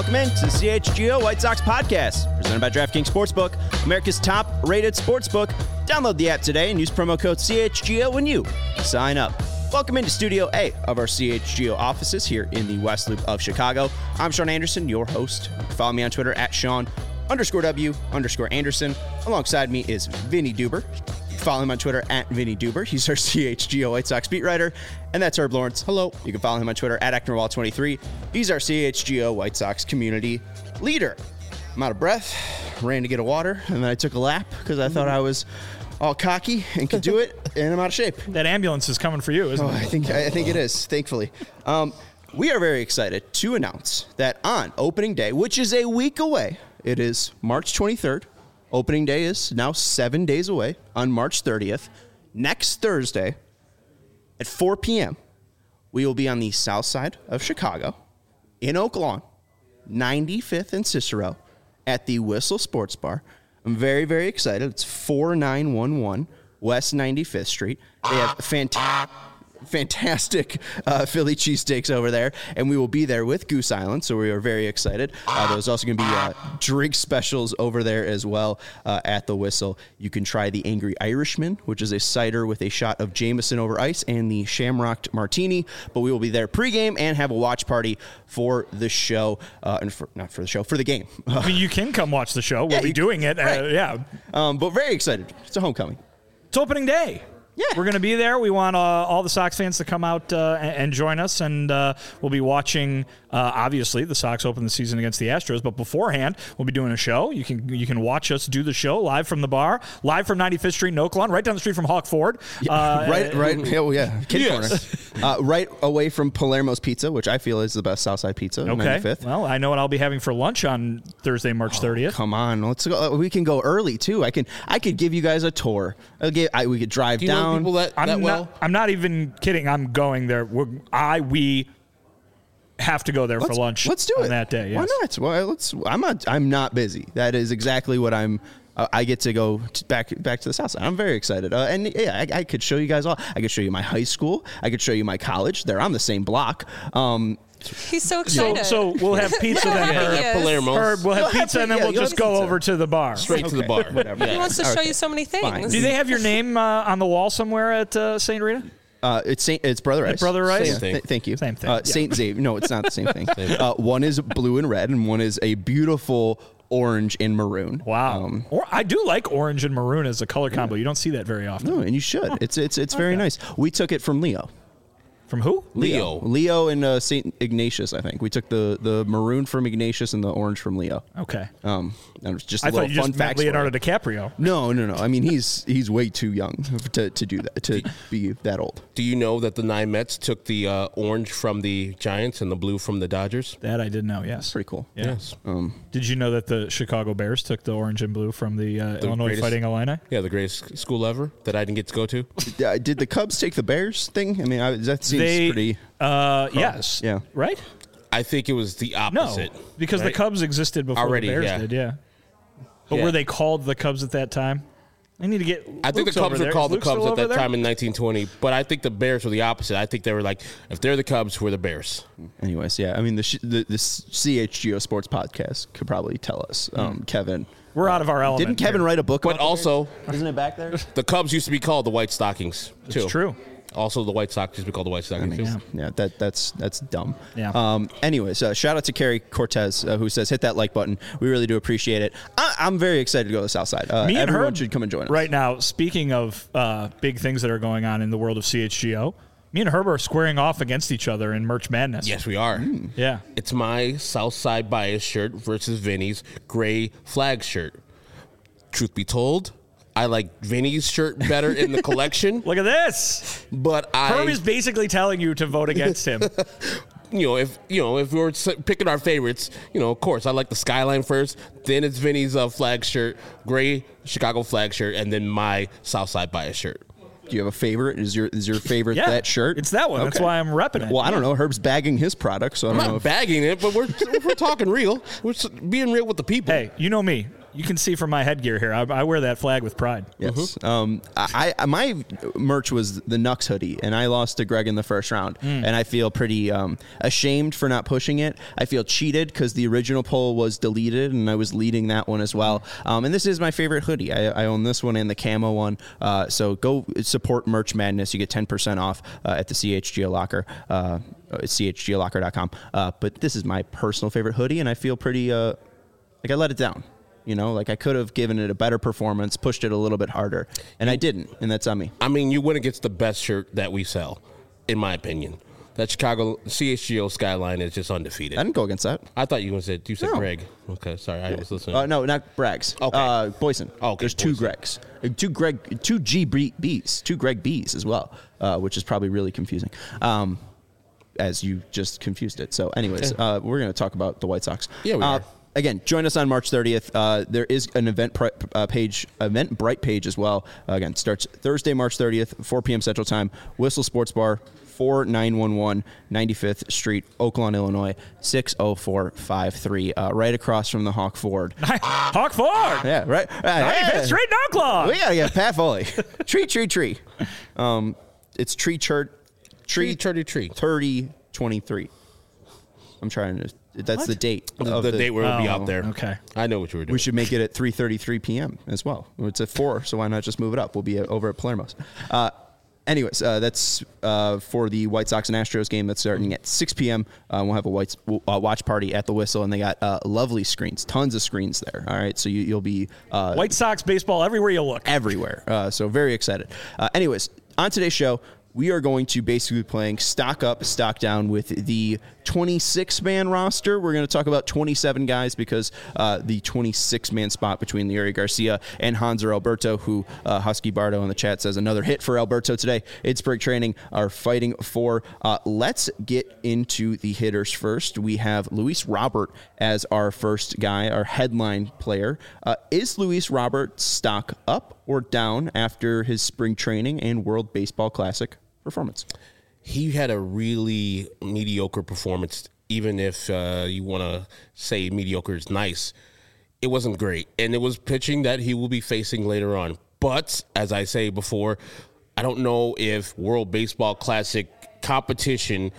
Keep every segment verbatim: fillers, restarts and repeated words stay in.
welcome in to the C H G O White Sox podcast, presented by DraftKings Sportsbook, America's top-rated sportsbook. Download the app today and use promo code C H G O when you sign up. Welcome into Studio A of our C H G O offices here in the West Loop of Chicago. I'm Sean Anderson, your host. Follow me on Twitter at Sean underscore W underscore Anderson. Alongside me is Vinny Duber. Follow him on Twitter at Vinny Duber. He's our C H G O White Sox beat writer. And that's Herb Lawrence. Hello. You can follow him on Twitter at Ecknerwall twenty-three. He's our C H G O White Sox community leader. I'm out of breath. Ran to get a water, and then I took a lap because I thought I was all cocky and could do it, and I'm out of shape. That ambulance is coming for you, isn't oh, it? I think I think it is, thankfully. Um, we are very excited to announce that on opening day, which is a week away, it is March twenty-third. Opening day is now seven days away on March thirtieth. Next Thursday at four p.m., we will be on the south side of Chicago in Oak Lawn, ninety-fifth and Cicero at the Whistle Sports Bar. I'm very, very excited. It's four nine one one West ninety-fifth Street. They have fantastic... Fantastic uh, Philly cheesesteaks over there, and we will be there with Goose Island, so we are very excited. Uh, there's also going to be uh, drink specials over there as well uh, at the Whistle. You can try the Angry Irishman, which is a cider with a shot of Jameson over ice, and the Shamrocked Martini, but we will be there pregame and have a watch party for the show, uh, and for, not for the show, for the game. I mean, you can come watch the show. We'll Yeah, be you- doing it. Uh, right. yeah. Um, but very excited. It's a homecoming. It's opening day. Yeah. We're going to be there. We want uh, all the Sox fans to come out uh, and, and join us, and uh, we'll be watching, uh, obviously, the Sox open the season against the Astros, but beforehand, we'll be doing a show. You can you can watch us do the show live from the bar, live from ninety-fifth Street in Oak Lawn, right down the street from Hawk Ford. Yeah, Uh, right, right. Oh, yeah. Kitty Yes. corner. Uh, right away from Palermo's Pizza, which I feel is the best Southside pizza. on Okay. ninety-fifth. Well, I know what I'll be having for lunch on Thursday, March thirtieth. Come on, let's go. We can go early too. I can. I could give you guys a tour. I'll give, I, we could drive Do you know down. people that, I'm that not, well? I'm not even kidding. I'm going there. We're, I we have to go there let's, for lunch. Let's do on it that day. Why Yes. not? Well, let's. I'm not. I'm not busy. That is exactly what I'm. Uh, I get to go to back back to the south side. I'm very excited. Uh, and yeah, I, I could show you guys all. I could show you my high school. I could show you my college. They're on the same block. Um, He's so So, excited. so we'll have pizza then, Yeah, Herb. he is. Palermo. Herb, we'll have You'll have pizza to- and then yeah, we'll you'll just have go pizza. over to the bar. Straight to the Okay, bar. whatever. Yeah. he wants to show Okay. you so many Fine. things. Do they have your name uh, on the wall somewhere at uh, Saint Rita? Uh, it's Saint. It's Brother Rice. Brother Rice? Yeah, Same thing. th- thank you. Same thing. Uh, Yeah. Saint Xavier. No, it's not the same thing. uh, one is blue and red, and one is a beautiful orange and maroon. Wow. Um, or I do like orange and maroon as a color combo. You don't see that very often. no, and you should. It's it's it's very Okay. nice. We took it from Leo. From who? Leo. Leo and uh, Saint Ignatius. I think we took the the maroon from Ignatius and the orange from Leo. Okay. Um, and it's just a I little thought you fun just meant fact. for Leonardo you. DiCaprio. No, no, no. I mean, he's he's way too young to, to do that to be that old. Do you know that the nine Mets took the uh, orange from the Giants and the blue from the Dodgers? That I did know, yes. Pretty cool. Yeah. Yes. Um, Did you know that the Chicago Bears took the orange and blue from the, uh, Illinois greatest- Fighting Illini? Yeah, the greatest school ever that I didn't get to go to. yeah, did the Cubs take the Bears thing? I mean, I, that seems They, pretty. uh, yes. Yeah. Right? I think it was the No, opposite. because the right? Cubs existed before Already, the Bears yeah. did, yeah. But Yeah. were they called the Cubs at that time? I need to get I think Luke's the over Cubs were there. called Is the Luke still Cubs at over that there? time in nineteen twenty, but I think the Bears were the opposite. I think they were like, if they're the Cubs, we're the Bears. Anyways, yeah. I mean, the sh- the, the C H G O Sports Podcast could probably tell us. Um, Kevin, We're out of our element. didn't Kevin here. write a book? But about the also, Bears? Isn't it back there? the Cubs used to be called the White Stockings, too. It's true. Also, the White Sox used to be called the White Stockings, too. Yeah. Yeah, that that's that's dumb. Yeah. Um. Anyways, uh, shout out to Carrie Cortez uh, who says hit that like button. We really do appreciate it. I, I'm very excited to go to the South Side. Uh, Me and everyone Herb should come and join us. right now. Speaking of uh, big things that are going on in the world of C H G O, me and Herb are squaring off against each other in Merch Madness. Yes, we are. Yeah. It's my Southside Bias shirt versus Vinny's gray flag shirt. Truth be told, I like Vinny's shirt better in the collection, Look at this. but I, Herb is basically telling you to vote against him. you know, if you know, if we were s- picking our favorites, you know, of course, I like the Skyline first. Then it's Vinny's uh, flag shirt, gray Chicago flag shirt, and then my Southside Bias shirt. Do you have a favorite? Is your is your favorite Yeah, that shirt? it's that one. That's why I'm repping it. Well, I don't know. Herb's bagging his product, so I I'm don't know not if bagging it, but we're we're talking real. We're s- being real with the people. Hey, you know me. You can see from my headgear here, I, I wear that flag with pride. Yes. Mm-hmm. Um, I, I my merch was the Nux hoodie, and I lost to Greg in the first round, mm. and I feel pretty um, ashamed for not pushing it. I feel cheated because the original poll was deleted, and I was leading that one as well. Um, and this is my favorite hoodie. I, I own this one and the camo one. Uh, so go support Merch Madness. You get ten percent off uh, at the C H G O Locker. Uh, C H G O locker dot com. Uh, but this is my personal favorite hoodie, and I feel pretty uh, like I let it down. You know, like I could have given it a better performance, pushed it a little bit harder, and I didn't, and that's on me. I mean, you went against the best shirt that we sell, in my opinion. That Chicago C H G O Skyline is just undefeated. I didn't go against that. I thought you said you said No. Greg. Okay, sorry, I was listening. Uh, no, not Bragg's. Okay. Uh, Boyson. Okay, There's two Boyson. Gregs. Uh, Two Greg, two G B's, two Greg B's as well, uh, which is probably really confusing. Um, as you just confused it. So anyways, Yeah. uh, we're going to talk about the White Sox. Yeah, we uh, are. Again, join us on March thirtieth. Uh, there is an event pri- uh, page, Eventbrite page as well. Uh, again, starts Thursday, March thirtieth, four p.m. Central Time. Whistle Sports Bar, four nine one one ninety-fifth Street, Oaklawn, Illinois, six oh four five three. Uh, right across from the Hawk Ford. Hawk Ford. Yeah, right. Uh, ninety-fifth yeah. Street, Oaklawn. We gotta get Pat Foley. tree, tree, tree. Um, it's tree church. Tree, tree, tree. thirty twenty-three. I'm trying to. That's What? the date. The, of the date where it'll be Oh, out there. okay. I know what you were doing. We should make it at three thirty-three p.m. as well. It's at four, so why not just move it up? We'll be over at Palermo's. Uh, anyways, uh, that's uh, for the White Sox and Astros game that's starting at six p.m. Uh, we'll have a white, uh, watch party at the Whistle, and they got uh, lovely screens, tons of screens there. All right, so you, you'll be uh, White Sox baseball everywhere you look. everywhere. Uh, so very excited. Uh, anyways, on today's show, we are going to basically be playing stock up, stock down with the twenty-six man roster. We're going to talk about twenty-seven guys because uh, the twenty-six man spot between Leury Garcia and Hanser Alberto, who uh, Husky Bardo in the chat says another hit for Alberto today. It's spring training, are fighting for. Uh, let's get into the hitters first. We have Luis Robert as our first guy, our headline player. Uh, is Luis Robert stock up or down after his spring training and World Baseball Classic performance? He had a really mediocre performance, even if uh, you want to say mediocre is nice. It wasn't great, and it was pitching that he will be facing later on. But, as I say before, I don't know if World Baseball Classic competition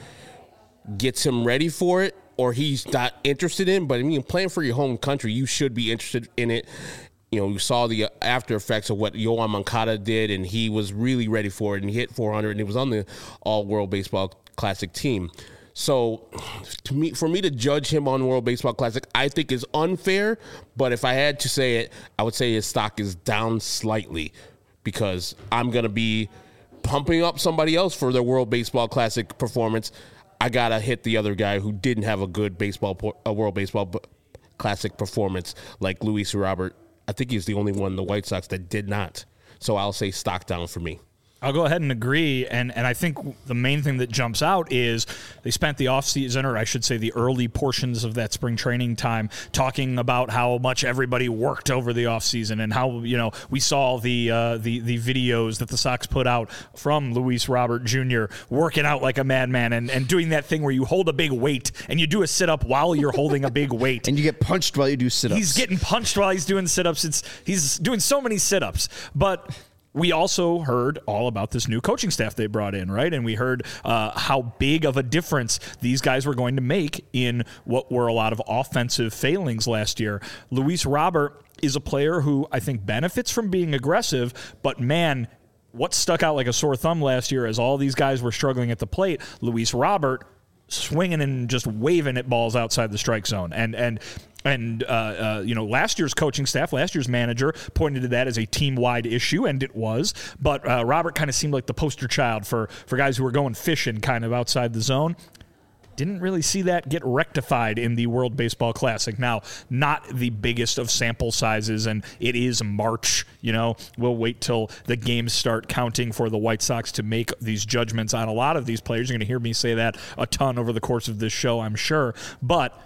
gets him ready for it or he's not interested in. But, I mean, playing for your home country, you should be interested in it. You know, you saw the after effects of what Yoan Moncada did, and he was really ready for it, and he hit four hundred, and he was on the All-World Baseball Classic team. So, to me, for me to judge him on World Baseball Classic, I think is unfair, but if I had to say it, I would say his stock is down slightly because I'm going to be pumping up somebody else for their World Baseball Classic performance. I got to hit the other guy who didn't have a good baseball, a World Baseball Classic performance like Luis Robert. I think he's the only one in the White Sox that did not. So I'll say stock down for me. I'll go ahead and agree, and, and I think the main thing that jumps out is they spent the offseason, or I should say the early portions of that spring training time, talking about how much everybody worked over the offseason and how, you know, we saw the uh, the the videos that the Sox put out from Luis Robert Junior working out like a madman and, and doing that thing where you hold a big weight and you do a sit-up while you're holding a big weight. And you get punched while you do sit-ups. He's getting punched while he's doing sit-ups. It's he's doing so many sit-ups, but we also heard all about this new coaching staff they brought in, right? And we heard uh, how big of a difference these guys were going to make in what were a lot of offensive failings last year. Luis Robert is a player who I think benefits from being aggressive, but man, what stuck out like a sore thumb last year as all these guys were struggling at the plate, Luis Robert swinging and just waving at balls outside the strike zone. And, and, And, uh, uh, you know, last year's coaching staff, last year's manager pointed to that as a team-wide issue, and it was. But uh, Robert kind of seemed like the poster child for, for guys who were going fishing kind of outside the zone. Didn't really see that get rectified in the World Baseball Classic. Now, not the biggest of sample sizes, and it is March. You know, we'll wait till the games start counting for the White Sox to make these judgments on a lot of these players. You're going to hear me say that a ton over the course of this show, I'm sure. But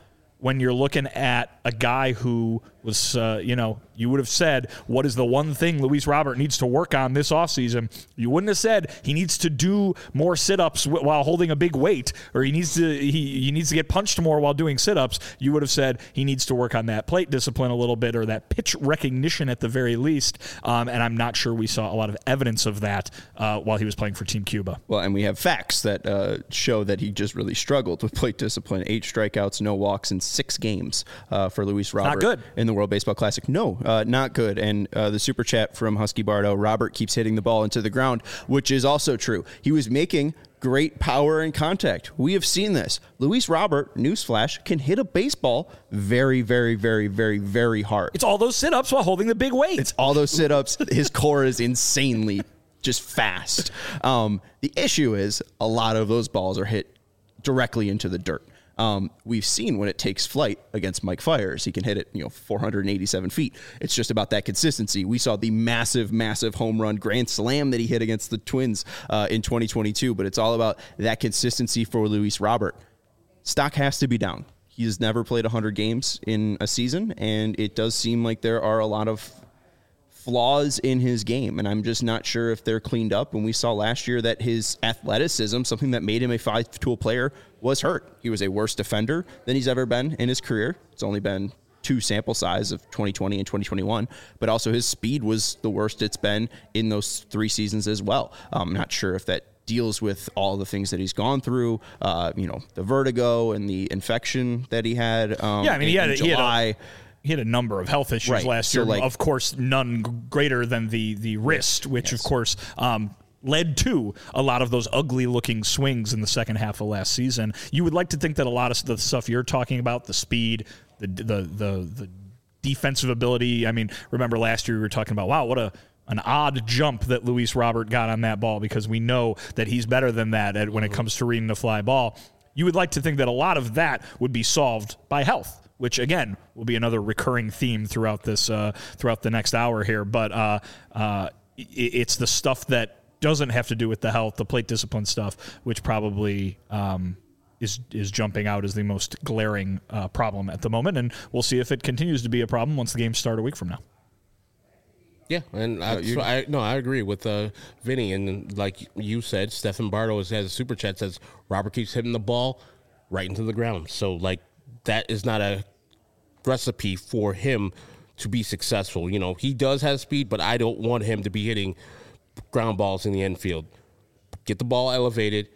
when you're looking at a guy who was, uh, you know, you would have said, what is the one thing Luis Robert needs to work on this offseason? You wouldn't have said he needs to do more sit-ups w- while holding a big weight, or he needs to he, he needs to get punched more while doing sit-ups. You would have said he needs to work on that plate discipline a little bit, or that pitch recognition at the very least. Um, and I'm not sure we saw a lot of evidence of that uh, while he was playing for Team Cuba. Well, and we have facts that uh, show that he just really struggled with plate discipline. Eight strikeouts, no walks in six games uh, for Luis Robert. Not good. In the World Baseball Classic. No, uh, not good. And uh, the super chat from Husky Bardo, Robert keeps hitting the ball into the ground, which is also true. He was making great power and contact. We have seen this. Luis Robert, newsflash, can hit a baseball very, very, very, very, very hard. It's all those sit-ups while holding the big weight. It's all those sit-ups. His core is insanely just fast. Um, the issue is a lot of those balls are hit directly into the dirt. Um, we've seen when it takes flight against Mike Fiers, he can hit it, you know, four hundred eighty-seven feet. It's just about that consistency. We saw the massive, massive home run grand slam that he hit against the Twins uh, in twenty twenty-two, but it's all about that consistency for Luis Robert. Stock has to be down. He has never played one hundred games in a season, and it does seem like there are a lot of flaws in his game, and I'm just not sure if they're cleaned up. And we saw last year that his athleticism, something that made him a five-tool player, was hurt. He was a worse defender than he's ever been in his career. It's only been two sample size of twenty twenty and twenty twenty-one, but also his speed was the worst it's been in those three seasons as well. I'm not sure if that deals with all the things that he's gone through, uh, you know, the vertigo and the infection that he had. Um, yeah, I mean, in, he had, in he had July. a, He had a number of health issues Right. last So, year. like- of course, none g- greater than the the wrist, which Yes. of course um, led to a lot of those ugly-looking swings in the second half of last season. You would like to think that a lot of the stuff you're talking about, the speed, the the the, the defensive ability. I mean, remember last year we were talking about, wow, what a an odd jump that Luis Robert got on that ball, because we know that he's better than that at, when it comes to reading the fly ball. You would like to think that a lot of that would be solved by health, which again will be another recurring theme throughout this uh, throughout the next hour here. But uh, uh, it, it's the stuff that doesn't have to do with the health, the plate discipline stuff, which probably um, is is jumping out as the most glaring uh, problem at the moment. And we'll see if it continues to be a problem once the games start a week from now. Yeah, and I, so I no, I agree with uh, Vinny, and like you said, Stephen Bardo has a super chat says Robert keeps hitting the ball right into the ground. So like that is not a recipe for him to be successful. You know, he does have speed, but I don't want him to be hitting ground balls in the infield. Get the ball elevated,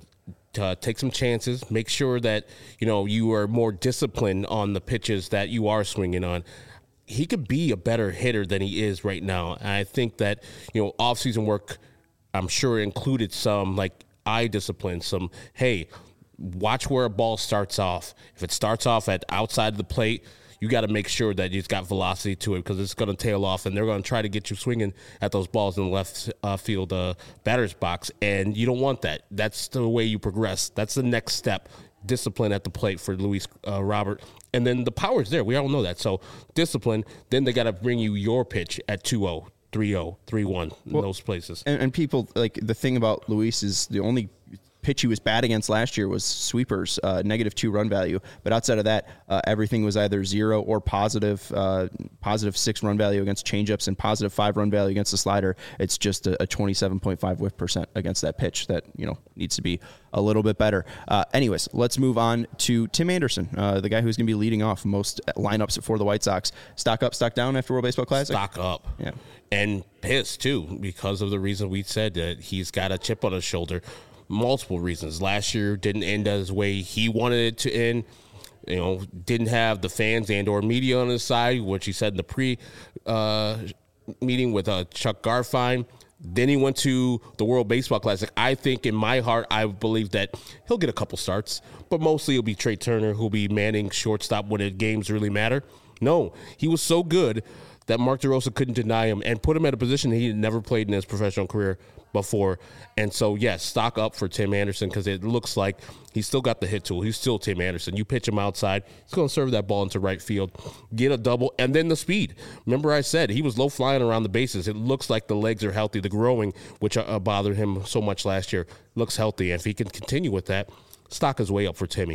uh, take some chances, make sure that, you know, you are more disciplined on the pitches that you are swinging on. He could be a better hitter than he is right now. And I think that, you know, off-season work, I'm sure included some like eye discipline, some, hey, watch where a ball starts off. If it starts off at outside of the plate, you got to make sure that it's got velocity to it, because it's going to tail off, and they're going to try to get you swinging at those balls in the left uh, field uh, batter's box, and you don't want that. That's the way you progress. That's the next step. Discipline at the plate for Luis uh, Robert. And then the power's there. We all know that. So discipline, then they got to bring you your pitch at two oh, three oh, three one in well, those places. And, and people, like, the thing about Luis is the only pitch he was bad against last year was sweepers, uh, negative two run value. But outside of that, uh, everything was either zero or positive, uh, positive six run value against changeups and positive five run value against the slider. It's just a, a twenty-seven point five whiff percent against that pitch that, you know, needs to be a little bit better. Uh, anyways, let's move on to Tim Anderson, uh, the guy who's going to be leading off most lineups for the White Sox. Stock up, stock down after World Baseball Classic? Stock up. Yeah. And pissed, too, because of the reason we said that he's got a chip on his shoulder. Multiple reasons. Last year didn't end as way he wanted it to end. You know, didn't have the fans and or media on his side, which he said in the pre uh, meeting with uh, Chuck Garfien. Then he went to the World Baseball Classic. I think in my heart, I believe that he'll get a couple starts, but mostly it'll be Trey Turner who'll be manning shortstop when the games really matter. No, he was so good that Mark DeRosa couldn't deny him and put him at a position he had never played in his professional career before. And so, yes, stock up for Tim Anderson, because it looks like he's still got the hit tool. He's still Tim Anderson. You pitch him outside, he's going to serve that ball into right field, get a double, and then the speed. Remember I said he was low flying around the bases. It looks like the legs are healthy. The growing, which uh, bothered him so much last year, looks healthy. And if he can continue with that, stock is way up for Timmy.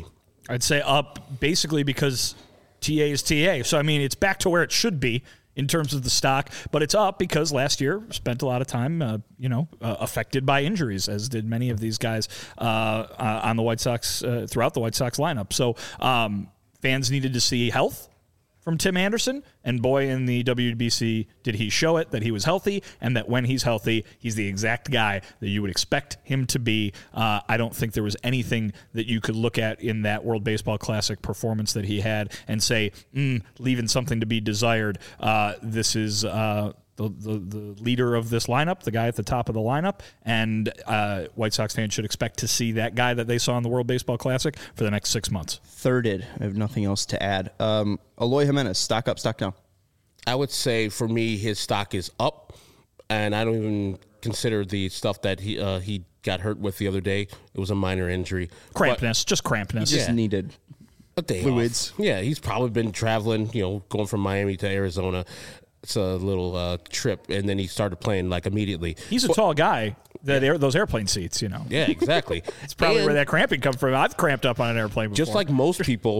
I'd say up basically because T A is T A. So, I mean, it's back to where it should be in terms of the stock, but it's up because last year spent a lot of time, uh, you know, uh, affected by injuries, as did many of these guys uh, uh, on the White Sox, uh, throughout the White Sox lineup. So um, fans needed to see health from Tim Anderson, and boy, in the W B C did he show it, that he was healthy, and that when he's healthy, he's the exact guy that you would expect him to be. Uh, I don't think there was anything that you could look at in that World Baseball Classic performance that he had and say, mm, leaving something to be desired. Uh, this is uh, the, the, the leader of this lineup, the guy at the top of the lineup, and uh, White Sox fans should expect to see that guy that they saw in the World Baseball Classic for the next six months. Thirded. I have nothing else to add. Um, Eloy Jimenez, stock up, stock down. I would say for me, his stock is up, and I don't even consider the stuff that he uh, he got hurt with the other day. It was a minor injury. Crampness, just crampness. He just Yeah. needed A day fluids. off. Yeah, he's probably been traveling, you know, going from Miami to Arizona. It's a little uh, trip, and then he started playing like immediately. He's a tall guy. That air, those airplane seats, you know. Yeah, exactly. It's probably And where that cramping comes from. I've cramped up on an airplane before. just like most people,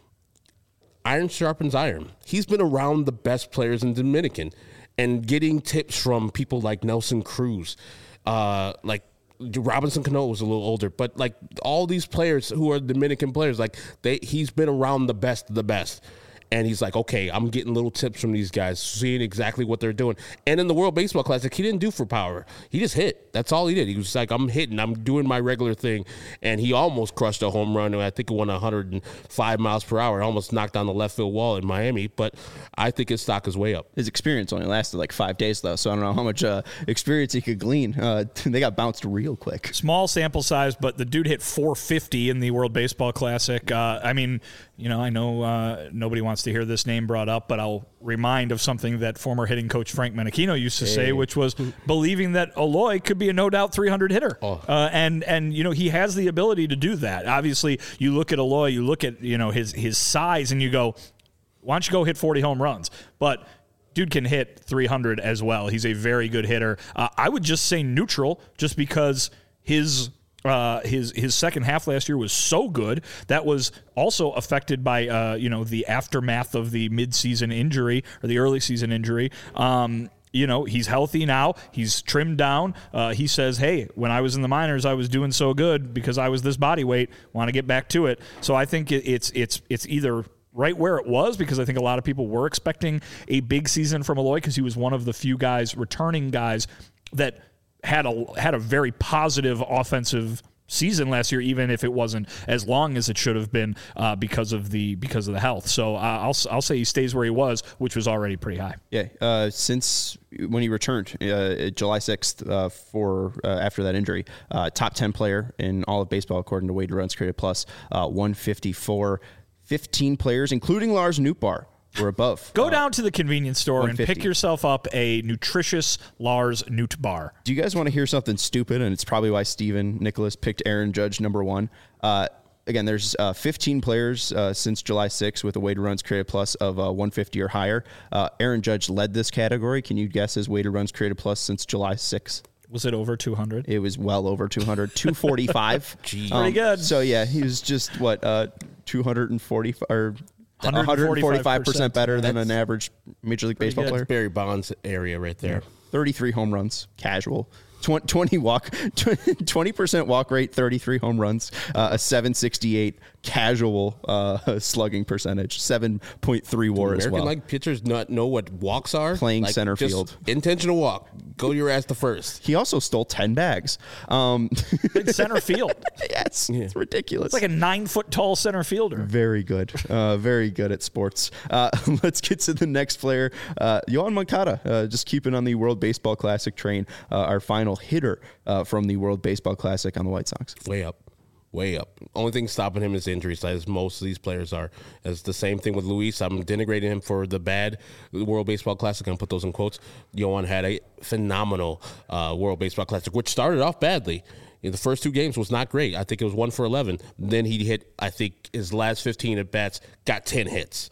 iron sharpens iron. He's been around the best players in Dominican and getting tips from people like Nelson Cruz, uh, like Robinson Cano was a little older, but like all these players who are Dominican players, like they, he's been around the best of the best. And he's like, okay, I'm getting little tips from these guys, seeing exactly what they're doing. And in the World Baseball Classic, he didn't do for power. He just hit. That's all he did. He was like, I'm hitting. I'm doing my regular thing. And he almost crushed a home run. I think it went one hundred five miles per hour. It almost knocked down the left field wall in Miami. But I think his stock is way up. His experience only lasted like five days, though, so I don't know how much uh, experience he could glean. Uh, they got bounced real quick. small sample size, but the dude hit four fifty in the World Baseball Classic. Uh, I mean, you know, I know uh, nobody wants to hear this name brought up, but I'll remind of something that former hitting coach Frank Menachino used to hey. say, which was believing that Eloy could be a no doubt three hundred hitter. Oh. Uh, and, and, you know, he has the ability to do that. Obviously, you look at Eloy, you look at, you know, his, his size, and you go, why don't you go hit forty home runs? But dude can hit three hundred as well. He's a very good hitter. Uh, I would just say neutral, just because his uh, his his second half last year was so good. That was also affected by uh, you know the aftermath of the midseason injury or the early season injury. Um, You know, he's healthy now. He's trimmed down. Uh, he says, hey, when I was in the minors, I was doing so good because I was this body weight. Want to get back to it. So I think it, it's it's it's either right where it was, because I think a lot of people were expecting a big season from Eloy because he was one of the few guys, returning guys, that had a had a very positive offensive season last year, even if it wasn't as long as it should have been uh, because of the because of the health. So uh, I'll I'll say he stays where he was, which was already pretty high. Yeah, uh, since when he returned uh, July sixth uh, for uh, after that injury, uh, top ten player in all of baseball according to Weighted Runs Created Plus, uh, one fifty-four, fifteen players, including Lars Nootbaar, were above. Go uh, down to the convenience store and pick yourself up a nutritious Lars Nootbaar. Do you guys want to hear something stupid? And it's probably why Steven Nicholas picked Aaron Judge number one. Uh, again, there's uh, fifteen players uh, since July sixth with a weighted runs created plus of uh, one fifty or higher. Uh, Aaron Judge led this category. Can you guess his weighted runs created plus since July sixth? Was it over two hundred? It was well over two hundred, two forty-five. Jeez. Um, Pretty good. So, yeah, he was just, what, uh, two forty or one hundred forty-five percent better than an average Major League Baseball good. player. That's Barry Bonds area right there. Yeah. thirty-three home runs, casual. twenty walk, twenty percent walk rate, thirty-three home runs, uh, a seven sixty-eight casual uh, slugging percentage, seven point three WAR American as well. League pitchers not know what walks are. Playing like center just field. Intentional walk. Go your ass to first. He also stole ten bags. Um, Big center field. Yes, yeah. It's ridiculous. It's like a nine foot tall center fielder. Very good. Uh, very good at sports. Uh, let's get to the next player. Uh, Yoan Moncada, uh, just keeping on the World Baseball Classic train, uh, our final hitter uh, from the World Baseball Classic on the White Sox. Way up. Way up. Only thing stopping him is injuries, as most of these players are. It's the same thing with Luis. I'm denigrating him for the bad World Baseball Classic. I'm going to put those in quotes. Yoan had a phenomenal uh, World Baseball Classic, which started off badly. In the first two games was not great. I think it was one for eleven. Then he hit, I think, his last fifteen at bats, got ten hits.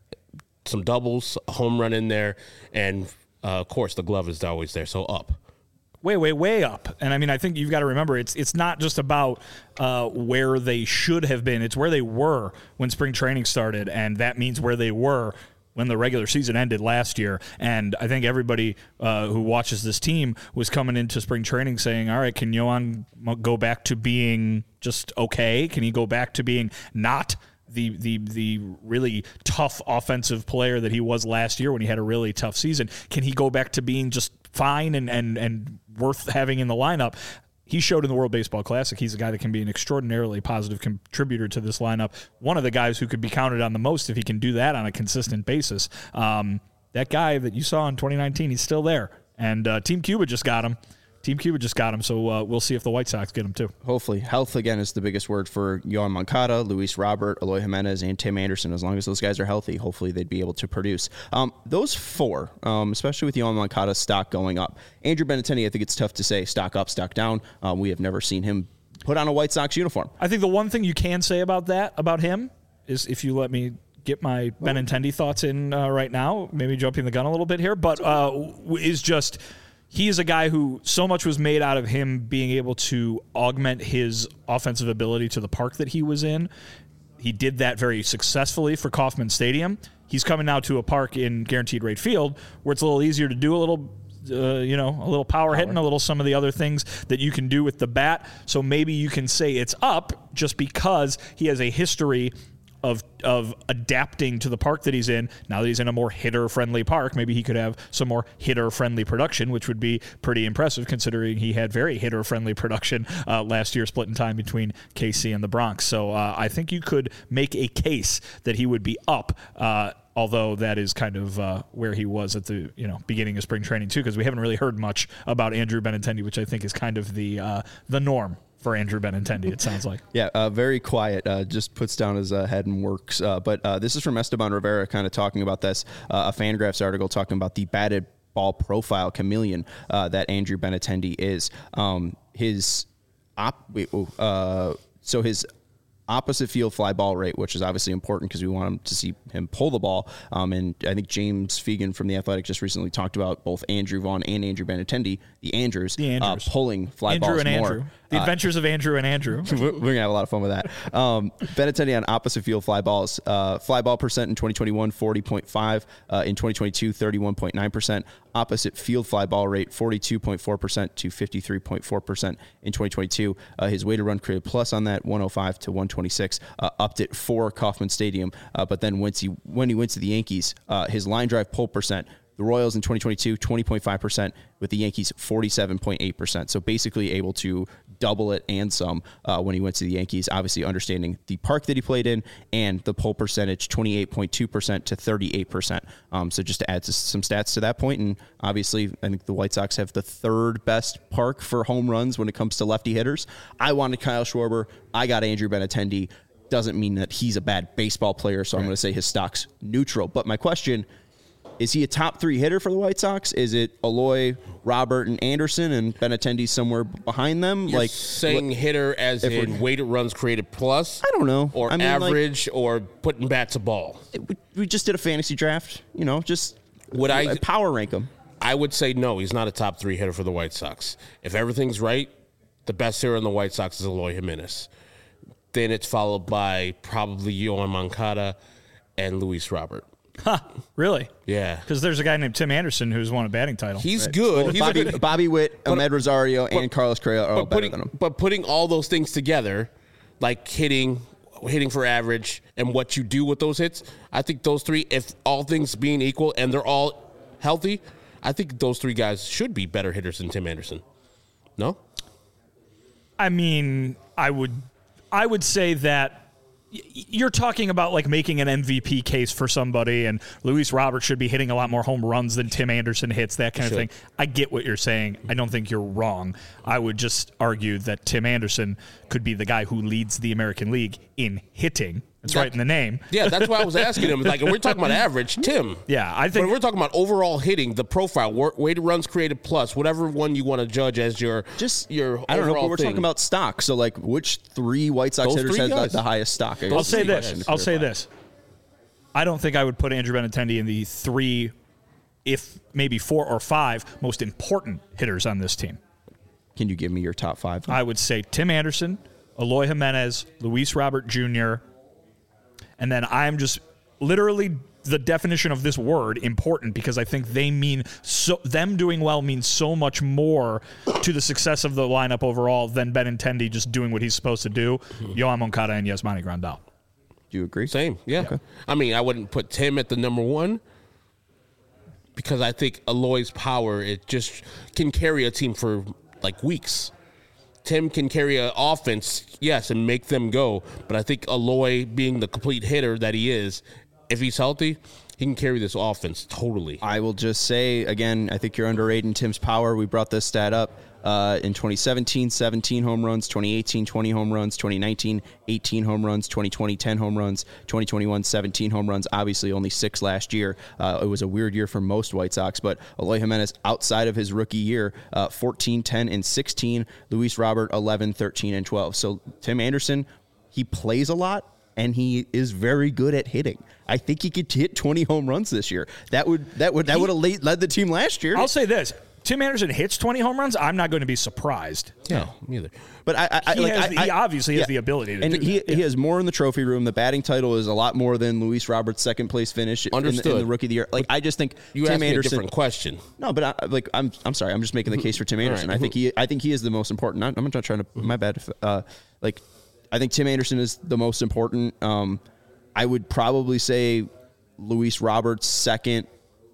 Some doubles, a home run in there, and, uh, of course, the glove is always there, so up. way, way, way up. And I mean, I think you've got to remember it's it's not just about uh, where they should have been. It's where they were when spring training started, and that means where they were when the regular season ended last year. And I think everybody uh, who watches this team was coming into spring training saying, all right, can Yohan go back to being just okay? Can he go back to being not the the the really tough offensive player that he was last year when he had a really tough season? Can he go back to being just fine and, and, and worth having in the lineup? He showed in the World Baseball Classic he's a guy that can be an extraordinarily positive contributor to this lineup. One of the guys who could be counted on the most if he can do that on a consistent basis. Um, that guy that you saw in twenty nineteen, he's still there. And uh, Team Cuba just got him. Team Cuba just got him, so uh, we'll see if the White Sox get him too. Hopefully. Health, again, is the biggest word for Yohan Moncada, Luis Robert, Eloy Jimenez, and Tim Anderson. As long as those guys are healthy, hopefully they'd be able to produce. Um, those four, um, especially with Yohan Moncada's stock going up. Andrew Benintendi, I think it's tough to say stock up, stock down. Um, we have never seen him put on a White Sox uniform. I think the one thing you can say about that, about him, is if you let me get my Benintendi thoughts in uh, right now, maybe jumping the gun a little bit here, but uh, is just... He is a guy who so much was made out of him being able to augment his offensive ability to the park that he was in. He did that very successfully for Kauffman Stadium. He's coming now to a park in Guaranteed Rate Field where it's a little easier to do a little, uh, you know, a little power, power hitting, a little some of the other things that you can do with the bat. So maybe you can say it's up just because he has a history of of adapting to the park that he's in. Now that he's in a more hitter-friendly park, maybe he could have some more hitter-friendly production, which would be pretty impressive considering he had very hitter-friendly production uh, last year, split in time between K C and the Bronx. So uh, I think you could make a case that he would be up, uh, although that is kind of uh, where he was at the you know beginning of spring training too, because we haven't really heard much about Andrew Benintendi, which I think is kind of the uh, the norm for Andrew Benintendi, it sounds like. Yeah, uh, very quiet, uh, just puts down his uh, head and works. Uh, but uh, this is from Esteban Rivera kind of talking about this, uh, a Fangraphs article talking about the batted ball profile chameleon uh, that Andrew Benintendi is. Um, his op, wait, uh, so his opposite field fly ball rate, which is obviously important because we want him to see him pull the ball. Um, and I think James Fegan from The Athletic just recently talked about both Andrew Vaughn and Andrew Benintendi, the Andrews, the Andrews. Uh, pulling fly Andrew balls and more. Andrew. The Adventures uh, of Andrew and Andrew. We're, we're going to have a lot of fun with that. Um, Benintendi on opposite field fly balls. Uh, fly ball percent in twenty twenty-one, forty point five. Uh, in twenty twenty-two, thirty-one point nine percent. Opposite field fly ball rate, forty-two point four percent to fifty-three point four percent in twenty twenty-two. Uh, his weighted run created plus on that, one oh five to one twenty-six. Uh, upped it for Kauffman Stadium. Uh, but then once he, when he went to the Yankees, uh, his line drive pull percent, the Royals in twenty twenty-two, twenty point five percent, with the Yankees, forty-seven point eight percent. So basically able to double it and some uh, when he went to the Yankees, obviously understanding the park that he played in and the pull percentage, twenty-eight point two percent to thirty-eight percent. Um, so just to add to some stats to that point, and obviously I think the White Sox have the third best park for home runs when it comes to lefty hitters. I wanted Kyle Schwarber. I got Andrew Benintendi. Doesn't mean that he's a bad baseball player, so right. I'm going to say his stock's neutral. But my question, is he a top three hitter for the White Sox? Is it Eloy, Robert, and Anderson, and Benintendi somewhere behind them? You're like saying what, hitter as in weighted runs created plus? I don't know. Or I mean, average, like, or putting bats a ball? It, we, we just did a fantasy draft. You know, just would I power rank him? I would say no. He's not a top three hitter for the White Sox. If everything's right, the best hitter in the White Sox is Eloy Jimenez. Then it's followed by probably Yohan Moncada and Luis Robert. Huh, really? Yeah. Because there's a guy named Tim Anderson who's won a batting title. He's right. good. Well, He's Bobby, a good. Bobby Witt, but, Ahmed Rosario, but, and Carlos Correa are all better putting, than him. But putting all those things together, like hitting, hitting for average, and what you do with those hits, I think those three, if all things being equal and they're all healthy, I think those three guys should be better hitters than Tim Anderson. No? I mean, I would, I would say that you're talking about like making an M V P case for somebody, and Luis Robert should be hitting a lot more home runs than Tim Anderson hits, that kind of thing. I get what you're saying. I don't think you're wrong. I would just argue that Tim Anderson could be the guy who leads the American League in hitting. It's that, right in the name. Yeah, that's why I was asking him. Like, if we're talking about average, Tim. Yeah, I think. When we're talking about overall hitting, the profile, weighted runs created plus, whatever one you want to judge as your just your. I don't know. But we're thing. talking about stock. So, like, which three White Sox Those hitters has guys. the, the highest stock? I'll say this. I'll say this. I don't think I would put Andrew Benintendi in the three, if maybe four or five most important hitters on this team. Can you give me your top five? I would say Tim Anderson, Eloy Jimenez, Luis Robert Junior, and then I'm just literally the definition of this word important because I think they mean so them doing well means so much more to the success of the lineup overall than Benintendi just doing what he's supposed to do. Mm-hmm. Yohan Moncada and Yasmani Grandal. Do you agree? Same, yeah. Okay. I mean, I wouldn't put Tim at the number one because I think Eloy's power, it just can carry a team for like weeks. Tim can carry an offense, yes, and make them go. But I think Eloy, being the complete hitter that he is, if he's healthy, he can carry this offense totally. I will just say, again, I think you're underrating Tim's power. We brought this stat up. Uh, in twenty seventeen, seventeen home runs, twenty eighteen, twenty home runs, twenty nineteen, eighteen home runs, twenty twenty, ten home runs, twenty twenty-one, seventeen home runs, obviously only six last year. Uh, it was a weird year for most White Sox, but Eloy Jimenez, outside of his rookie year, uh, fourteen, ten, and sixteen. Luis Robert, eleven, thirteen, and twelve. So Tim Anderson, he plays a lot, and he is very good at hitting. I think he could hit twenty home runs this year. That would that would that would have led the team last year. I'll say this. Tim Anderson hits twenty home runs, I'm not going to be surprised. Yeah, neither. But I, I, he, like, has I, the, he obviously yeah. has the ability to and do he, that. Yeah. he has more in the trophy room. The batting title is a lot more than Luis Robert's second place finish in the, in the rookie of the year. Like I just think you Tim asked me Anderson. a different question. No, but I, like I'm I'm sorry. I'm just making the case for Tim Anderson. Right. I think he I think he is the most important. I'm not trying to. My bad. If, uh, like I think Tim Anderson is the most important. Um, I would probably say Luis Roberts second,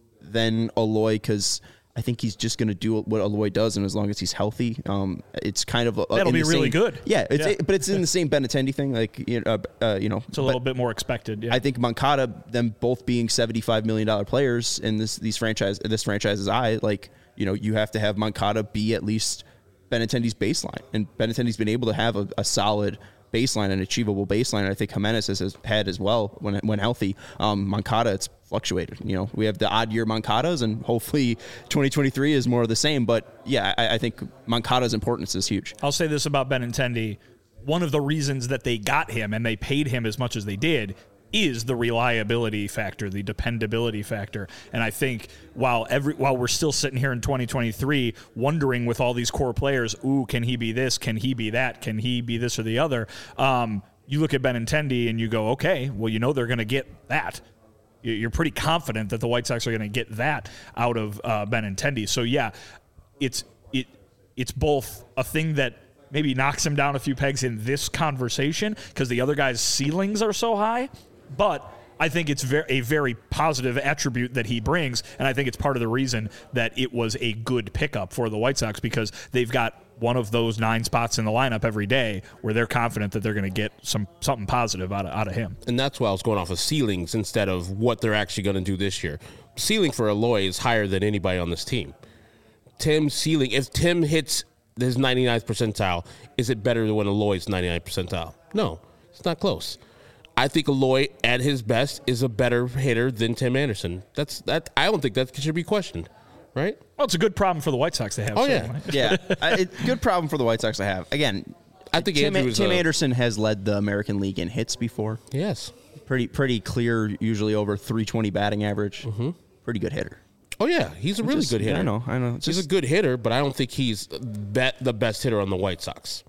then Eloy, because I think he's just going to do what Eloy does, and as long as he's healthy, um, it's kind of a, that'll be really same, good. Yeah, it's yeah. It, but it's in the same Benintendi thing, like you know, uh, uh, you know, it's a little bit more expected. Yeah. I think Moncada, them both being seventy-five million dollar players in this these franchise this franchise's eye, like you know, you have to have Moncada be at least Benintendi's baseline, and Benintendi's been able to have a, a solid baseline, an achievable baseline. And I think Jimenez has, has had as well when when healthy. Um, Moncada, it's fluctuated. You know, we have the odd year Moncadas, and hopefully twenty twenty-three is more of the same. But yeah, I, I think Moncada's importance is huge. I'll say this about Benintendi: one of the reasons that they got him and they paid him as much as they did is the reliability factor, the dependability factor. And I think while every while we're still sitting here in twenty twenty-three wondering with all these core players, ooh, can he be this? Can he be that? Can he be this or the other? Um, you look at Benintendi and you go, okay, well, you know they're going to get that. You're pretty confident that the White Sox are going to get that out of uh, Benintendi. So, yeah, it's it it's both a thing that maybe knocks him down a few pegs in this conversation because the other guy's ceilings are so high, but I think it's very, a very positive attribute that he brings, and I think it's part of the reason that it was a good pickup for the White Sox because they've got one of those nine spots in the lineup every day where they're confident that they're going to get some something positive out of, out of him. And that's why I was going off of ceilings instead of what they're actually going to do this year. Ceiling for Eloy is higher than anybody on this team. Tim's ceiling, if Tim hits his ninety-ninth percentile, is it better than when Eloy's ninety-ninth percentile? No, it's not close. I think Eloy, at his best, is a better hitter than Tim Anderson. That's that. I don't think that should be questioned, right? Well, it's a good problem for the White Sox to have. Oh, certainly. yeah. yeah. I, it, good problem for the White Sox to have. Again, I think Tim, Andrew is Tim a, Anderson has led the American League in hits before. Yes. Pretty pretty clear, usually over three twenty batting average. Mm-hmm. Pretty good hitter. Oh, yeah. He's a really Just, good hitter. I know. I know. It's he's just, a good hitter, but I don't think he's bet the best hitter on the White Sox.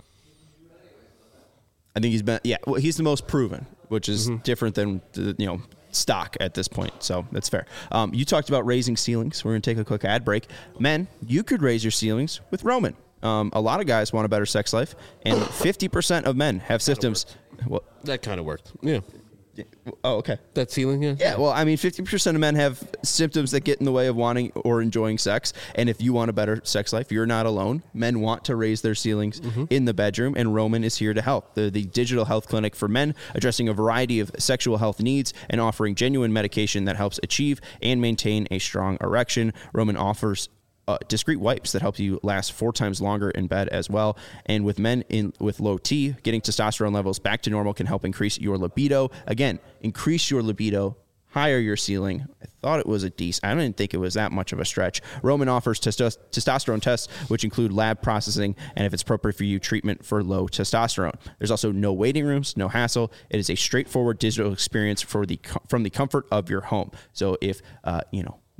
I think he's been, yeah, well, he's the most proven, which is Mm-hmm. different than, the, you know, stock at this point. So that's fair. Um, you talked about raising ceilings. We're going to take a quick ad break. Men, you could raise your ceilings with Roman. Um, a lot of guys want a better sex life, and fifty percent of men have symptoms. Well, That kind of worked. Yeah. oh, okay. That ceiling, yeah. Yeah, well, I mean, fifty percent of men have symptoms that get in the way of wanting or enjoying sex. And if you want a better sex life, you're not alone. Men want to raise their ceilings mm-hmm. in the bedroom, and Roman is here to help. The, the digital health clinic for men, addressing a variety of sexual health needs and offering genuine medication that helps achieve and maintain a strong erection. Roman offers Uh, discreet wipes that help you last four times longer in bed as well. And with men in with low T, getting testosterone levels back to normal can help increase your libido. Again, increase your libido, higher your ceiling. I thought it was a decent. I didn't think it was that much of a stretch. Roman offers testo- testosterone tests, which include lab processing, and if it's appropriate for you, treatment for low testosterone. There's also no waiting rooms, no hassle. It is a straightforward digital experience for the from the comfort of your home. So if uh, you know.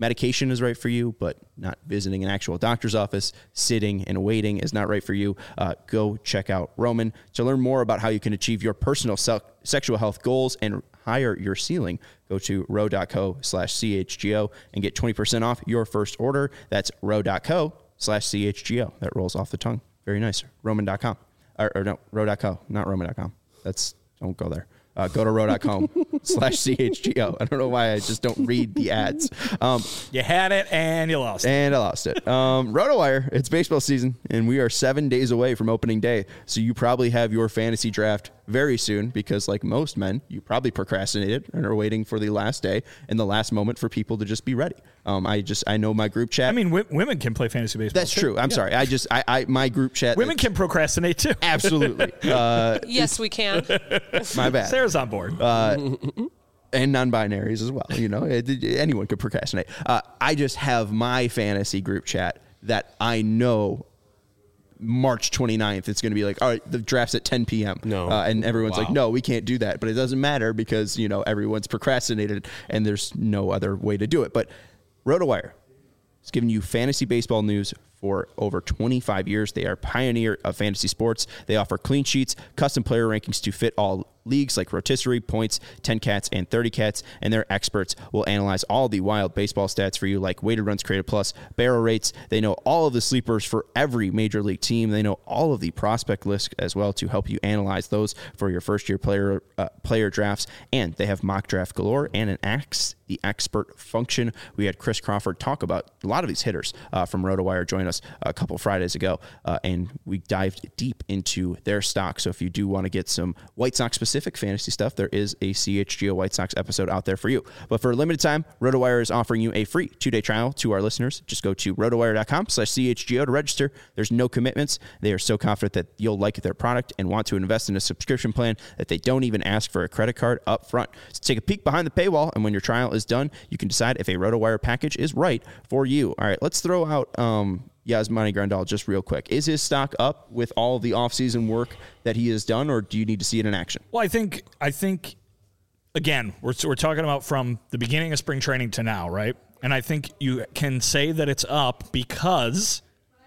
medication is right for you, but not visiting an actual doctor's office, sitting and waiting is not right for you, uh, go check out Roman. To learn more about how you can achieve your personal se- sexual health goals and higher your ceiling, go to ro.co slash CHGO and get twenty percent off your first order. That's ro.co slash CHGO. That rolls off the tongue. Very nice. Roman dot com. Or, or no, ro.co, not roman dot com. That's, don't go there. Uh, go to ro.com slash CHGO. I don't know why I just don't read the ads. Um, you had it and you lost it. And I lost it. Um, RotoWire, it's baseball season, and we are seven days away from opening day. So you probably have your fantasy draft very soon because, like most men, you probably procrastinated and are waiting for the last day and the last moment for people to just be ready. Um, I just, I know my group chat. I mean, w- women can play fantasy baseball. That's too. true. I'm Yeah. sorry. I just, I, I, my group chat. Women can procrastinate too. Absolutely. Uh, Yes, we can. my bad. Sarah's on board. Uh, and non-binaries as well. You know, it, it, anyone could procrastinate. Uh, I just have my fantasy group chat that I know March twenty-ninth, it's going to be like, all right, the draft's at ten p.m. No. Uh, and everyone's Wow. like, no, we can't do that. But it doesn't matter because, you know, everyone's procrastinated and there's no other way to do it. But RotoWire is giving you fantasy baseball news for over twenty-five years. They are a pioneer of fantasy sports. They offer clean sheets, custom player rankings to fit all leagues like rotisserie, points, ten cats, and thirty cats, and their experts will analyze all the wild baseball stats for you like weighted runs created plus, barrel rates. They know all of the sleepers for every major league team. They know all of the prospect lists as well to help you analyze those for your first year player uh, player drafts, and they have mock draft galore and an Ask the Expert function. We had Chris Crawford talk about a lot of these hitters uh, from RotoWire join us a couple Fridays ago, uh, and we dived deep into their stock. So if you do want to get some White Sox specific fantasy stuff, there is a C H G O White Sox episode out there for you. But for a limited time, RotoWire is offering you a free two-day trial to our listeners. Just go to rotowire.com slash CHGO to register. There's no commitments. They are so confident that you'll like their product and want to invest in a subscription plan that they don't even ask for a credit card up front. So take a peek behind the paywall, and when your trial is done, you can decide if a RotoWire package is right for you. All right, let's throw out um, Yasmani Grandal just real quick. Is his stock up with all the offseason work that he has done, or do you need to see it in action? Well, I think, I think, again, we're we're talking about from the beginning of spring training to now, right? And I think you can say that it's up because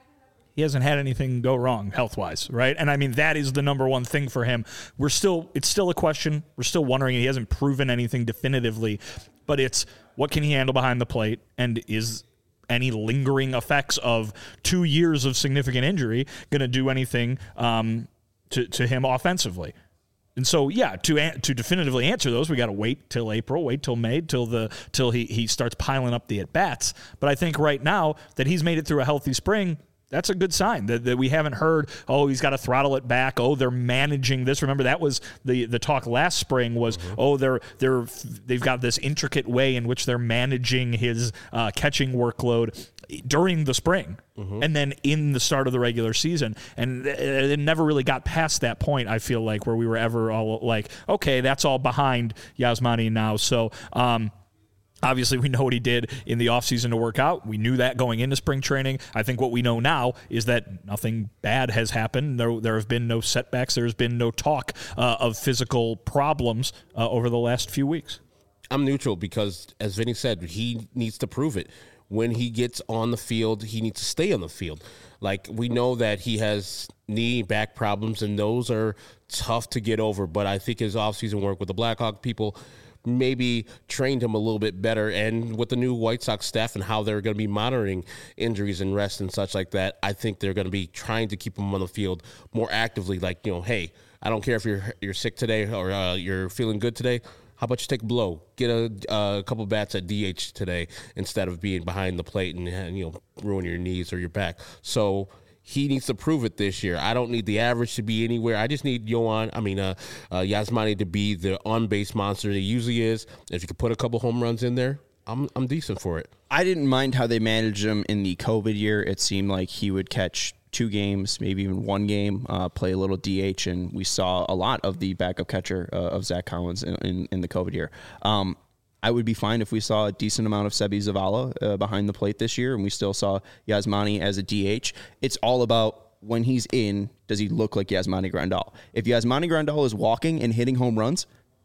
he hasn't had anything go wrong health-wise, right? And I mean, that is the number one thing for him. We're still, it's still a question. We're still wondering. He hasn't proven anything definitively, but it's what can he handle behind the plate, and is any lingering effects of two years of significant injury going to do anything um, to, to him offensively? And so, yeah, to to definitively answer those, we got to wait till April, wait till May, till the till he he starts piling up the at bats. But I think right now that he's made it through a healthy spring, that's a good sign that, that we haven't heard, oh, he's got to throttle it back. Oh, they're managing this. Remember, that was the, the talk last spring was, mm-hmm. oh, they're they're they've got this intricate way in which they're managing his uh, catching workload during the spring, mm-hmm. and then in the start of the regular season. And it never really got past that point, I feel like, where we were ever all like, okay, that's all behind Yasmani now. So, um, obviously, we know what he did in the offseason to work out. We knew that going into spring training. I think what we know now is that nothing bad has happened. There, there have been no setbacks. There's been no talk uh, of physical problems uh, over the last few weeks. I'm neutral because, as Vinny said, he needs to prove it. When he gets on the field, he needs to stay on the field. Like, we know that he has knee, back problems, and those are tough to get over. But I think his offseason work with the Blackhawk people maybe trained him a little bit better, and with the new White Sox staff and how they're going to be monitoring injuries and rest and such like that, I think they're going to be trying to keep him on the field more actively. Like, you know, hey, I don't care if you're you're sick today or uh, you're feeling good today. How about you take a blow, get a, uh, a couple bats at D H today instead of being behind the plate and, and you know ruin your knees or your back. So he needs to prove it this year. I don't need the average to be anywhere. I just need Yohan, I mean, uh, uh, Yasmani to be the on-base monster that he usually is. If you could put a couple home runs in there, I'm I'm decent for it. I didn't mind how they managed him in the COVID year. It seemed like he would catch two games, maybe even one game, uh, play a little D H, and we saw a lot of the backup catcher uh, of Zach Collins in, in, in the COVID year. Um, I would be fine if we saw a decent amount of Sebi Zavala uh, behind the plate this year, and we still saw Yasmani as a D H. It's all about when he's in, does he look like Yasmani Grandal? If Yasmani Grandal is walking and hitting home runs,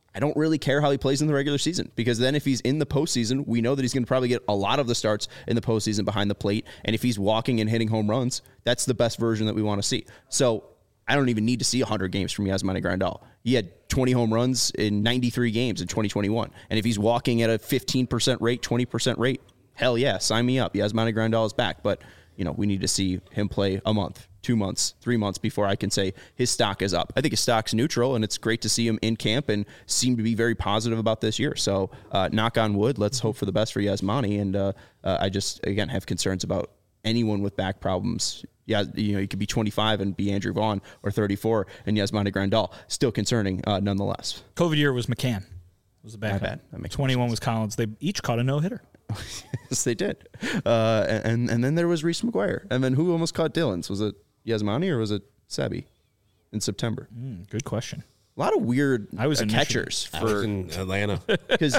I don't really care how he plays in the regular season, because then if he's in the postseason, we know that he's going to probably get a lot of the starts in the postseason behind the plate. And if he's walking and hitting home runs, that's the best version that we want to see. So I don't even need to see one hundred games from Yasmani Grandal. He had twenty home runs in ninety-three games in twenty twenty-one. And if he's walking at a fifteen percent rate, twenty percent rate, hell yeah, sign me up. Yasmani Grandal is back. But, you know, we need to see him play a month, two months, three months before I can say his stock is up. I think his stock's neutral, and it's great to see him in camp and seem to be very positive about this year. So uh, knock on wood, let's hope for the best for Yasmani. And uh, uh, I just, again, have concerns about anyone with back problems. Yeah, you know, you could be twenty-five and be Andrew Vaughn, or thirty-four and Yasmani Grandal. Still concerning uh, nonetheless. COVID year was McCann. Was the backup. My bad. That makes twenty-one was Collins. They each caught a no-hitter. Yes, they did. Uh, and and then there was Reese McGuire. And then who almost caught Dylan's? Was it Yasmani or was it Sebi in September? Mm, good question. A lot of weird I was uh, in catchers I for was in Atlanta. because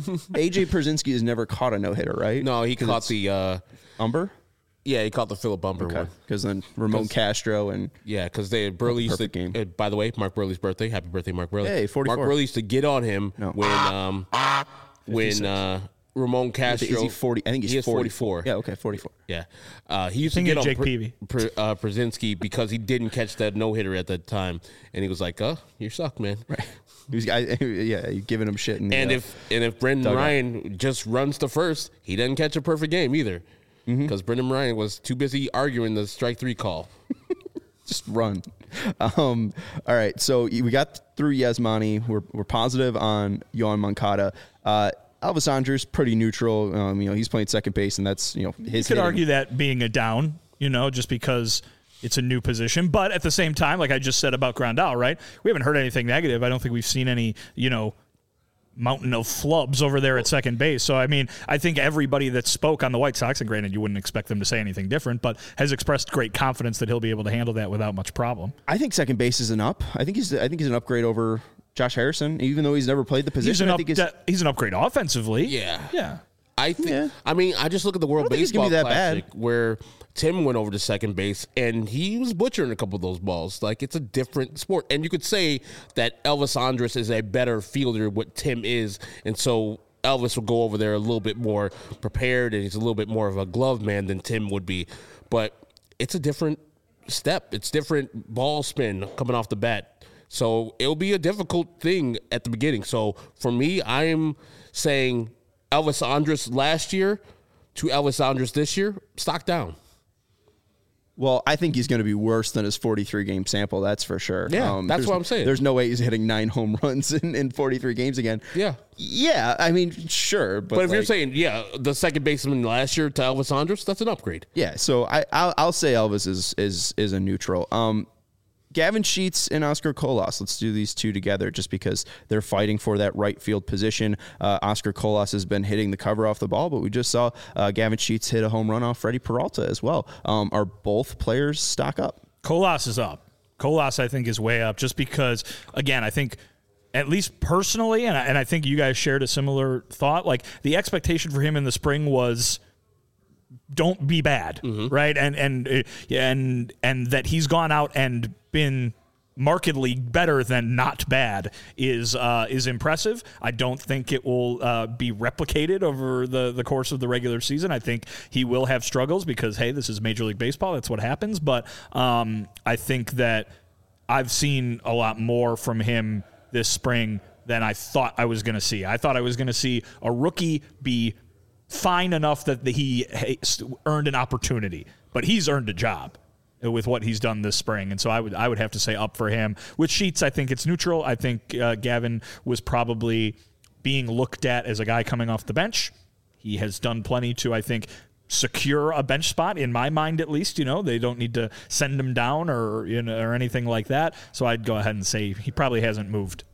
A J Pierzynski has never caught a no hitter, right? No, he caught the uh, Umber. yeah, he caught the Philip Umber one. Because then Ramon Castro and Yeah, because they Burley used to. Perfect game. Uh, by the way, Mark Burley's birthday. Happy birthday, Mark Burley. Hey, forty-four. Mark Burley used to get on him No. when um when uh, Ramon Castro. is he forty? I think he's he is forty. forty-four. Yeah, okay, forty-four. Yeah, uh, he used to Thinking get of on Jake Pr- Peavy. Pr- uh, Brzezinski because he didn't catch that no hitter at that time, and he was like, "Uh, you suck, man." Right. He was, I, yeah, you giving him shit. In the, And uh, if and if Brendan dugout. Ryan just runs to first, he doesn't catch a perfect game either, because Brendan Ryan was too busy arguing the strike three call. just run. Um, all right, so we got through Yasmani. We're we're positive on Yohan Moncada. Uh, Elvis Andrus, pretty neutral. Um, you know, he's playing second base, and that's, you know, his. You could hitting. argue that being a down, you know, just because it's a new position. But at the same time, like I just said about Grandal, right? We haven't heard anything negative. I don't think we've seen any, you know, mountain of flubs over there at second base. So, I mean, I think everybody that spoke on the White Sox, and granted you wouldn't expect them to say anything different, but has expressed great confidence that he'll be able to handle that without much problem. I think second base is an up. I think he's I think he's an upgrade over Josh Harrison, even though he's never played the He's position. an, I up, think he's, de- he's an upgrade offensively. Yeah. Yeah. I think. Yeah. I mean, I just look at the World I don't think he's Baseball gonna be that Classic bad. where Tim went over to second base and he was butchering a couple of those balls. Like, it's a different sport, and you could say that Elvis Andrus is a better fielder what Tim is, and so Elvis will go over there a little bit more prepared, and he's a little bit more of a glove man than Tim would be. But it's a different step. It's different ball spin coming off the bat. So it'll be a difficult thing at the beginning. So for me, I am saying Elvis Andrus last year to Elvis Andrus this year, stock down. well, I think he's going to be worse than his forty-three game sample. That's for sure. Yeah, that's there's- what I'm saying. There's no way he's hitting nine home runs in, in forty-three games again. Yeah. Yeah, I mean, sure, but, But if you're like- saying, yeah, the second baseman last year to Elvis Andrus, that's an upgrade. yeah, so I I'll, I'll say Elvis is is is a neutral. Um, Gavin Sheets and Oscar Colas. Let's do these two together just because they're fighting for that right field position. Uh, Oscar Colas has been hitting the cover off the ball, but we just saw uh, Gavin Sheets hit a home run off Freddie Peralta as well. Um, are both players stock up? Colas is up. Colas, I think, is way up just because, again, I think, at least personally, and I, and I think you guys shared a similar thought, like the expectation for him in the spring was don't be bad, right? And and uh, and and that he's gone out and been markedly better than not bad is uh, is impressive. I don't think it will uh, be replicated over the, the course of the regular season. I think he will have struggles because, hey, this is Major League Baseball. That's what happens. But um, I think that I've seen a lot more from him this spring than I thought I was going to see. I thought I was going to see a rookie be fine enough that he earned an opportunity, but he's earned a job with what he's done this spring, and so I would I would have to say up for him. With Sheets, I think it's neutral. I think uh, Gavin was probably being looked at as a guy coming off the bench. He has done plenty to, I think, secure a bench spot in my mind, at least. You know, they don't need to send him down or you know or anything like that. So I'd go ahead and say he probably hasn't moved.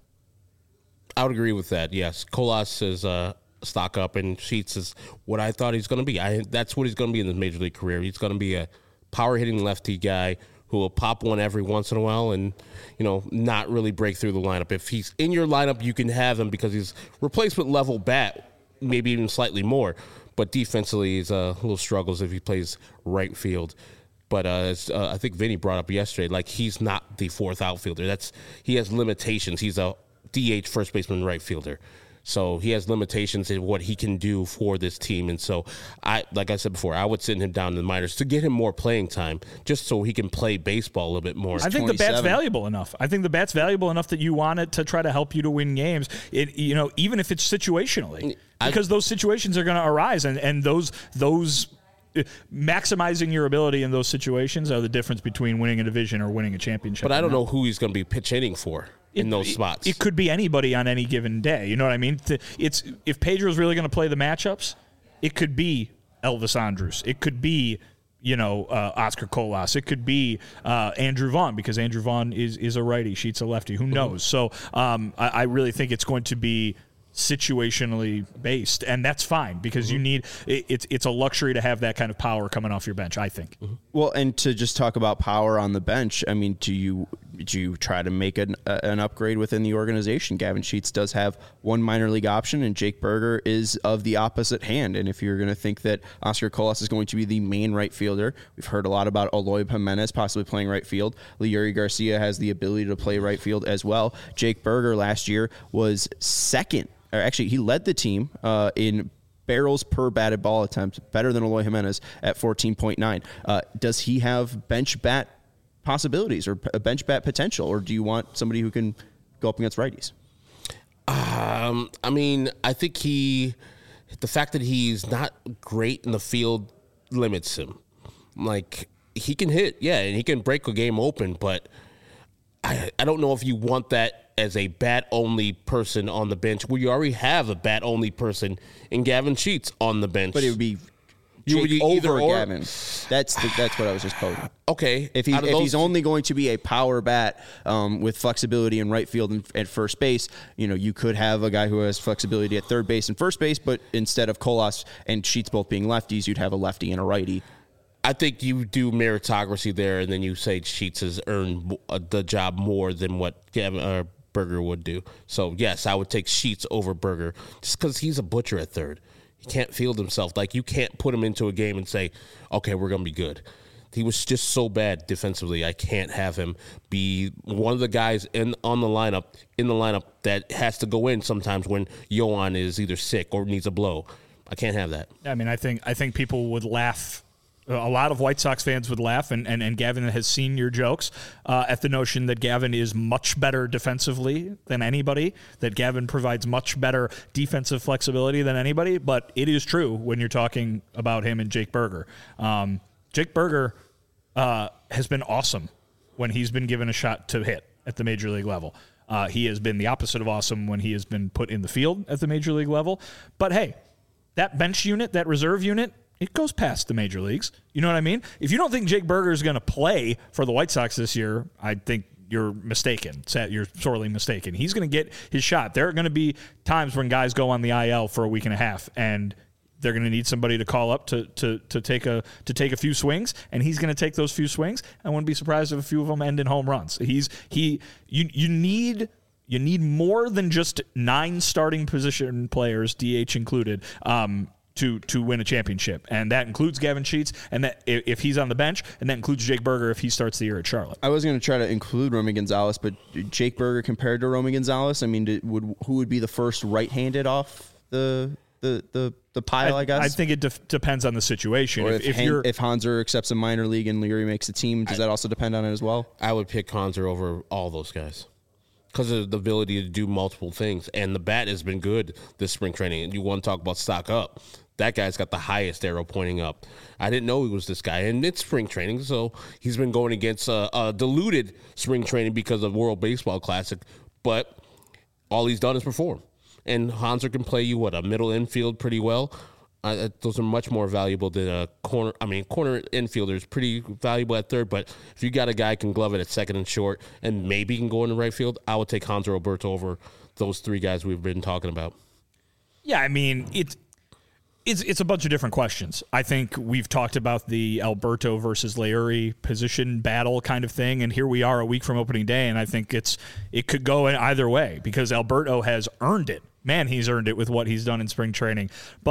I would agree with that. Yes, Colas is uh, stock up, and Sheets is what I thought he's going to be. I that's what he's going to be in his major league career. He's going to be a power hitting lefty guy who will pop one every once in a while, and you know not really break through the lineup. If he's in your lineup, you can have him because he's replacement level bat, maybe even slightly more. But defensively, he's a uh, little struggles if he plays right field. But uh, as, uh, I think Vinny brought up yesterday, like he's not the fourth outfielder. That's he has limitations. He's a D H, first baseman, right fielder. So he has limitations in what he can do for this team. And so, I like I said before, I would send him down to the minors to get him more playing time just so he can play baseball a little bit more. I think the bat's valuable enough. I think the bat's valuable enough that you want it to try to help you to win games, It, you know, even if it's situationally. Because I, those situations are going to arise, and, and those those maximizing your ability in those situations are the difference between winning a division or winning a championship. But I don't know who he's going to be pitch hitting for. In it, those spots, it could be anybody on any given day. You know what I mean? It's if Pedro's really going to play the matchups, it could be Elvis Andrus. It could be, you know, uh, Oscar Colas. It could be uh, Andrew Vaughn, because Andrew Vaughn is is a righty. Sheet's a lefty. Who knows? So um, I, I really think it's going to be situationally based, and that's fine, because mm-hmm. you need it, it's it's a luxury to have that kind of power coming off your bench, I think. Mm-hmm. Well, and to just talk about power on the bench, I mean, do you do you try to make an uh, an upgrade within the organization? Gavin Sheets does have one minor league option, and Jake Berger is of the opposite hand. And if you're going to think that Oscar Colas is going to be the main right fielder, we've heard a lot about Eloy Jimenez possibly playing right field. Leury Garcia has the ability to play right field as well. Jake Berger last year was second. Or actually, he led the team uh, in barrels per batted ball attempt, better than Eloy Jimenez at fourteen point nine. Uh, does he have bench bat possibilities or a bench bat potential, or do you want somebody who can go up against righties? Um, I mean, I think he, the fact that he's not great in the field limits him. Like, he can hit, yeah, and he can break a game open, but I, I don't know if you want that as a bat-only person on the bench, where you already have a bat-only person in Gavin Sheets on the bench. But it would be Jake would over Gavin. That's the, that's what I was just posing. Okay. If, he, if he's only going to be a power bat um, with flexibility in right field and at first base, you know, you could have a guy who has flexibility at third base and first base, but instead of Colas and Sheets both being lefties, you'd have a lefty and a righty. I think you do meritocracy there, and then you say Sheets has earned the job more than what Gavin uh, Berger would do. So, yes, I would take Sheets over Berger just because he's a butcher at third. He can't field himself. Like, you can't put him into a game and say, okay, we're going to be good. He was just so bad defensively. I can't have him be one of the guys in on the lineup, in the lineup that has to go in sometimes when Yohan is either sick or needs a blow. I can't have that. I mean, I think I think people would laugh. A lot of White Sox fans would laugh, and, and, and Gavin has seen your jokes uh, at the notion that Gavin is much better defensively than anybody, that Gavin provides much better defensive flexibility than anybody, but it is true when you're talking about him and Jake Berger. Um, Jake Berger uh, has been awesome when he's been given a shot to hit at the major league level. Uh, he has been the opposite of awesome when he has been put in the field at the major league level. But hey, that bench unit, that reserve unit, it goes past the major leagues. You know what I mean? If you don't think Jake Berger is going to play for the White Sox this year, I think you're mistaken. You're sorely mistaken. He's going to get his shot. There are going to be times when guys go on the I L for a week and a half, and they're going to need somebody to call up to to to take a to take a few swings, and he's going to take those few swings. I wouldn't be surprised if a few of them end in home runs. He's he you you need you need more than just nine starting position players, D H included. Um, to to win a championship, and that includes Gavin Sheets, and that if he's on the bench, and that includes Jake Berger if he starts the year at Charlotte. I was going to try to include Romy Gonzalez, but Jake Berger compared to Romy Gonzalez, I mean, did, would who would be the first right-handed off the the the, the pile? I, I guess I think it de- depends on the situation. Or if, if, if, Han- you're, if Hanser accepts a minor league and Leury makes a team, does I, that also depend on it as well? I would pick Hanser over all those guys because of the ability to do multiple things, and the bat has been good this spring training. And you want to talk about stock up. That guy's got the highest arrow pointing up. I didn't know he was this guy. And it's spring training, so he's been going against a, a diluted spring training because of World Baseball Classic. But all he's done is perform. And Hanser can play you, what, a middle infield pretty well. Uh, those are much more valuable than a corner. I mean, corner infielder is pretty valuable at third. But if you got a guy who can glove it at second and short and maybe can go in the right field, I would take Hanser Alberto over those three guys we've been talking about. Yeah, I mean, it's... It's it's a bunch of different questions. I think we've talked about the Alberto versus Leury position battle kind of thing, and here we are a week from opening day, and I think it's it could go in either way because Alberto has earned it. Man, he's earned it with what he's done in spring training. But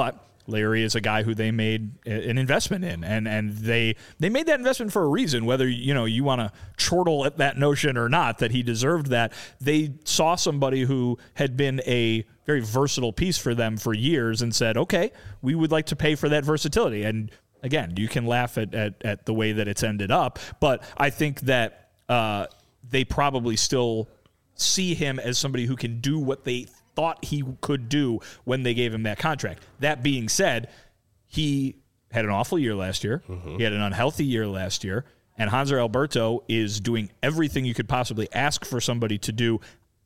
Larry is a guy who they made an investment in, and and they they made that investment for a reason. Whether you know you want to chortle at that notion or not, that he deserved that, they saw somebody who had been a very versatile piece for them for years and said, okay, we would like to pay for that versatility. And again, you can laugh at at, at the way that it's ended up, but I think that uh, they probably still see him as somebody who can do what they thought he could do when they gave him that contract. That being said, he had an awful year last year. Mm-hmm. He had an unhealthy year last year. And Hanser Alberto is doing everything you could possibly ask for somebody to do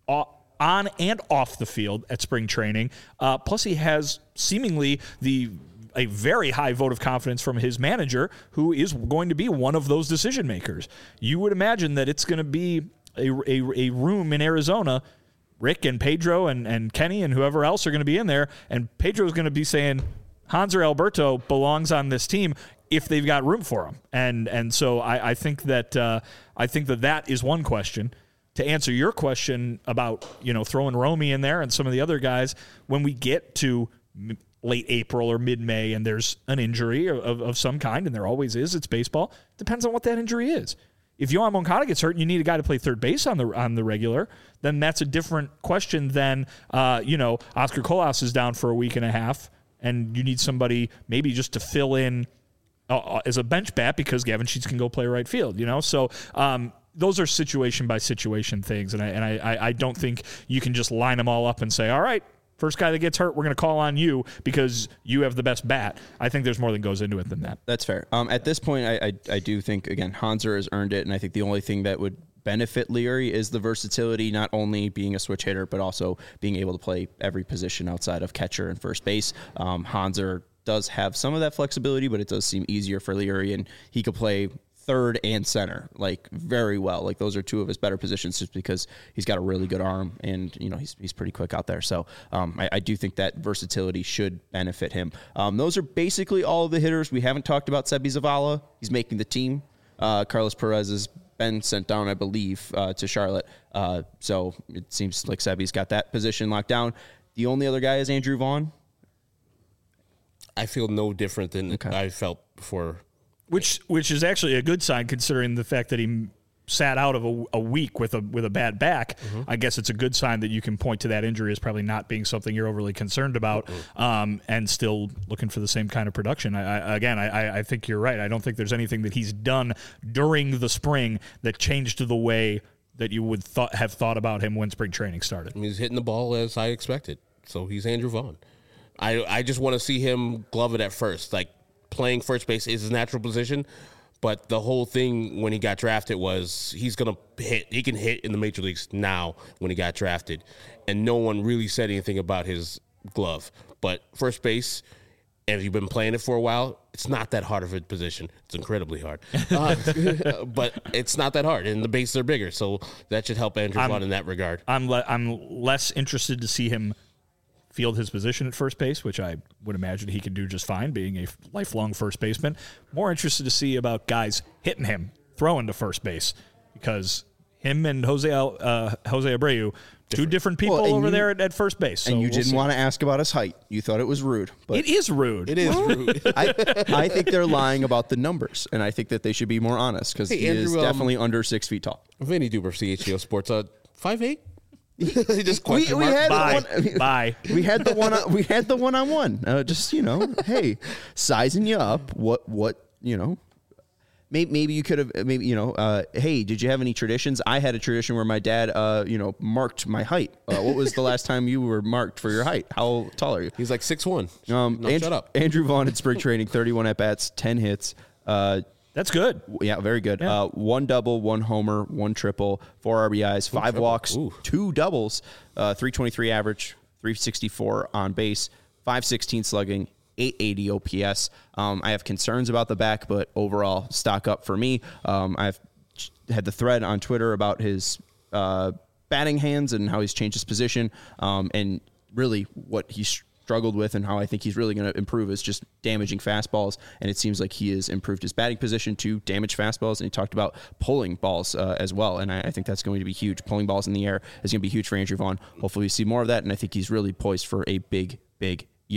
on and off the field at spring training. Uh, plus, he has seemingly the a very high vote of confidence from his manager, who is going to be one of those decision makers. You would imagine that it's going to be a, a, a room in Arizona. Rick and Pedro and, and Kenny and whoever else are going to be in there, and Pedro is going to be saying Hanser Alberto belongs on this team if they've got room for him. And and so I, I think that uh, I think that that is one question. To answer your question about you know throwing Romy in there and some of the other guys, when we get to m- late April or mid-May and there's an injury of, of some kind, and there always is, it's baseball, depends on what that injury is. If Yohan Moncada gets hurt and you need a guy to play third base on the on the regular, then that's a different question than, uh, you know, Oscar Colas is down for a week and a half, and you need somebody maybe just to fill in uh, as a bench bat because Gavin Sheets can go play right field, you know? So um, those are situation-by-situation things, and I, and I, I don't think you can just line them all up and say, all right, first guy that gets hurt, we're going to call on you because you have the best bat. I think there's more that goes into it than that. That's fair. Um, at this point, I, I I do think, again, Hanser has earned it, and I think the only thing that would benefit Leary is the versatility, not only being a switch hitter, but also being able to play every position outside of catcher and first base. Um, Hanser does have some of that flexibility, but it does seem easier for Leary, and he could play third and center, like very well. Like those are two of his better positions just because he's got a really good arm and, you know, he's he's pretty quick out there. So um, I, I do think that versatility should benefit him. Um, those are basically all of the hitters. We haven't talked about Sebi Zavala. He's making the team. Uh, Carlos Perez has been sent down, I believe, uh, to Charlotte. Uh, so it seems like Sebi's got that position locked down. The only other guy is Andrew Vaughn. I feel no different than okay. I felt before. Which which is actually a good sign considering the fact that he sat out of a, a week with a with a bad back. Mm-hmm. I guess it's a good sign that you can point to that injury as probably not being something you're overly concerned about, mm-hmm. um, and still looking for the same kind of production. I, I, again, I, I think you're right. I don't think there's anything that he's done during the spring that changed the way that you would th- have thought about him when spring training started. He's hitting the ball as I expected. So he's Andrew Vaughn. I I just want to see him glove it at first, like. Playing first base is his natural position, but the whole thing when he got drafted was he's going to hit. He can hit in the major leagues now when he got drafted, and no one really said anything about his glove. But first base, and if you've been playing it for a while, it's not that hard of a position. It's incredibly hard, uh, but it's not that hard, and the bases are bigger, so that should help Andrew Vaughn in that regard. I'm le- I'm less interested to see him field his position at first base, which I would imagine he could do just fine, being a lifelong first baseman. More interested to see about guys hitting him, throwing to first base, because him and Jose uh, Jose Abreu, two different people well, over you, there at, at first base. So and you we'll didn't see. want to ask about his height. You thought it was rude. But it is rude. It is rude. I, I think they're lying about the numbers, and I think that they should be more honest because hey, he Andrew, is definitely um, under six feet tall. Vinny Duber, C H G O Sports, uh, five eight. just we, we had Bye. The one, Bye. We had the one. We had the one on one. Uh, just you know, hey, sizing you up. What what you know. Maybe, maybe you could have, maybe, you know, uh, hey, did you have any traditions? I had a tradition where my dad, uh, you know, marked my height. Uh, what was the last time you were marked for your height? How tall are you? He's like six one. Um, no, Andrew, shut up. Andrew Vaughn in spring training, thirty-one at-bats, ten hits. Uh, That's good. Yeah, very good. Yeah. Uh, one double, one homer, one triple, four R B Is, five triple. walks, Ooh. two doubles, uh, three twenty-three average, three sixty-four on base, five sixteen slugging, eight eighty O P S. Um, I have concerns about the back, but overall, stock up for me. Um, I've had the thread on Twitter about his uh, batting hands and how he's changed his position, um, and really what he's struggled with and how I think he's really going to improve is just damaging fastballs, and it seems like he has improved his batting position to damage fastballs, and he talked about pulling balls uh, as well, and I, I think that's going to be huge. Pulling balls in the air is going to be huge for Andrew Vaughn. Hopefully we see more of that, and I think he's really poised for a big, big year.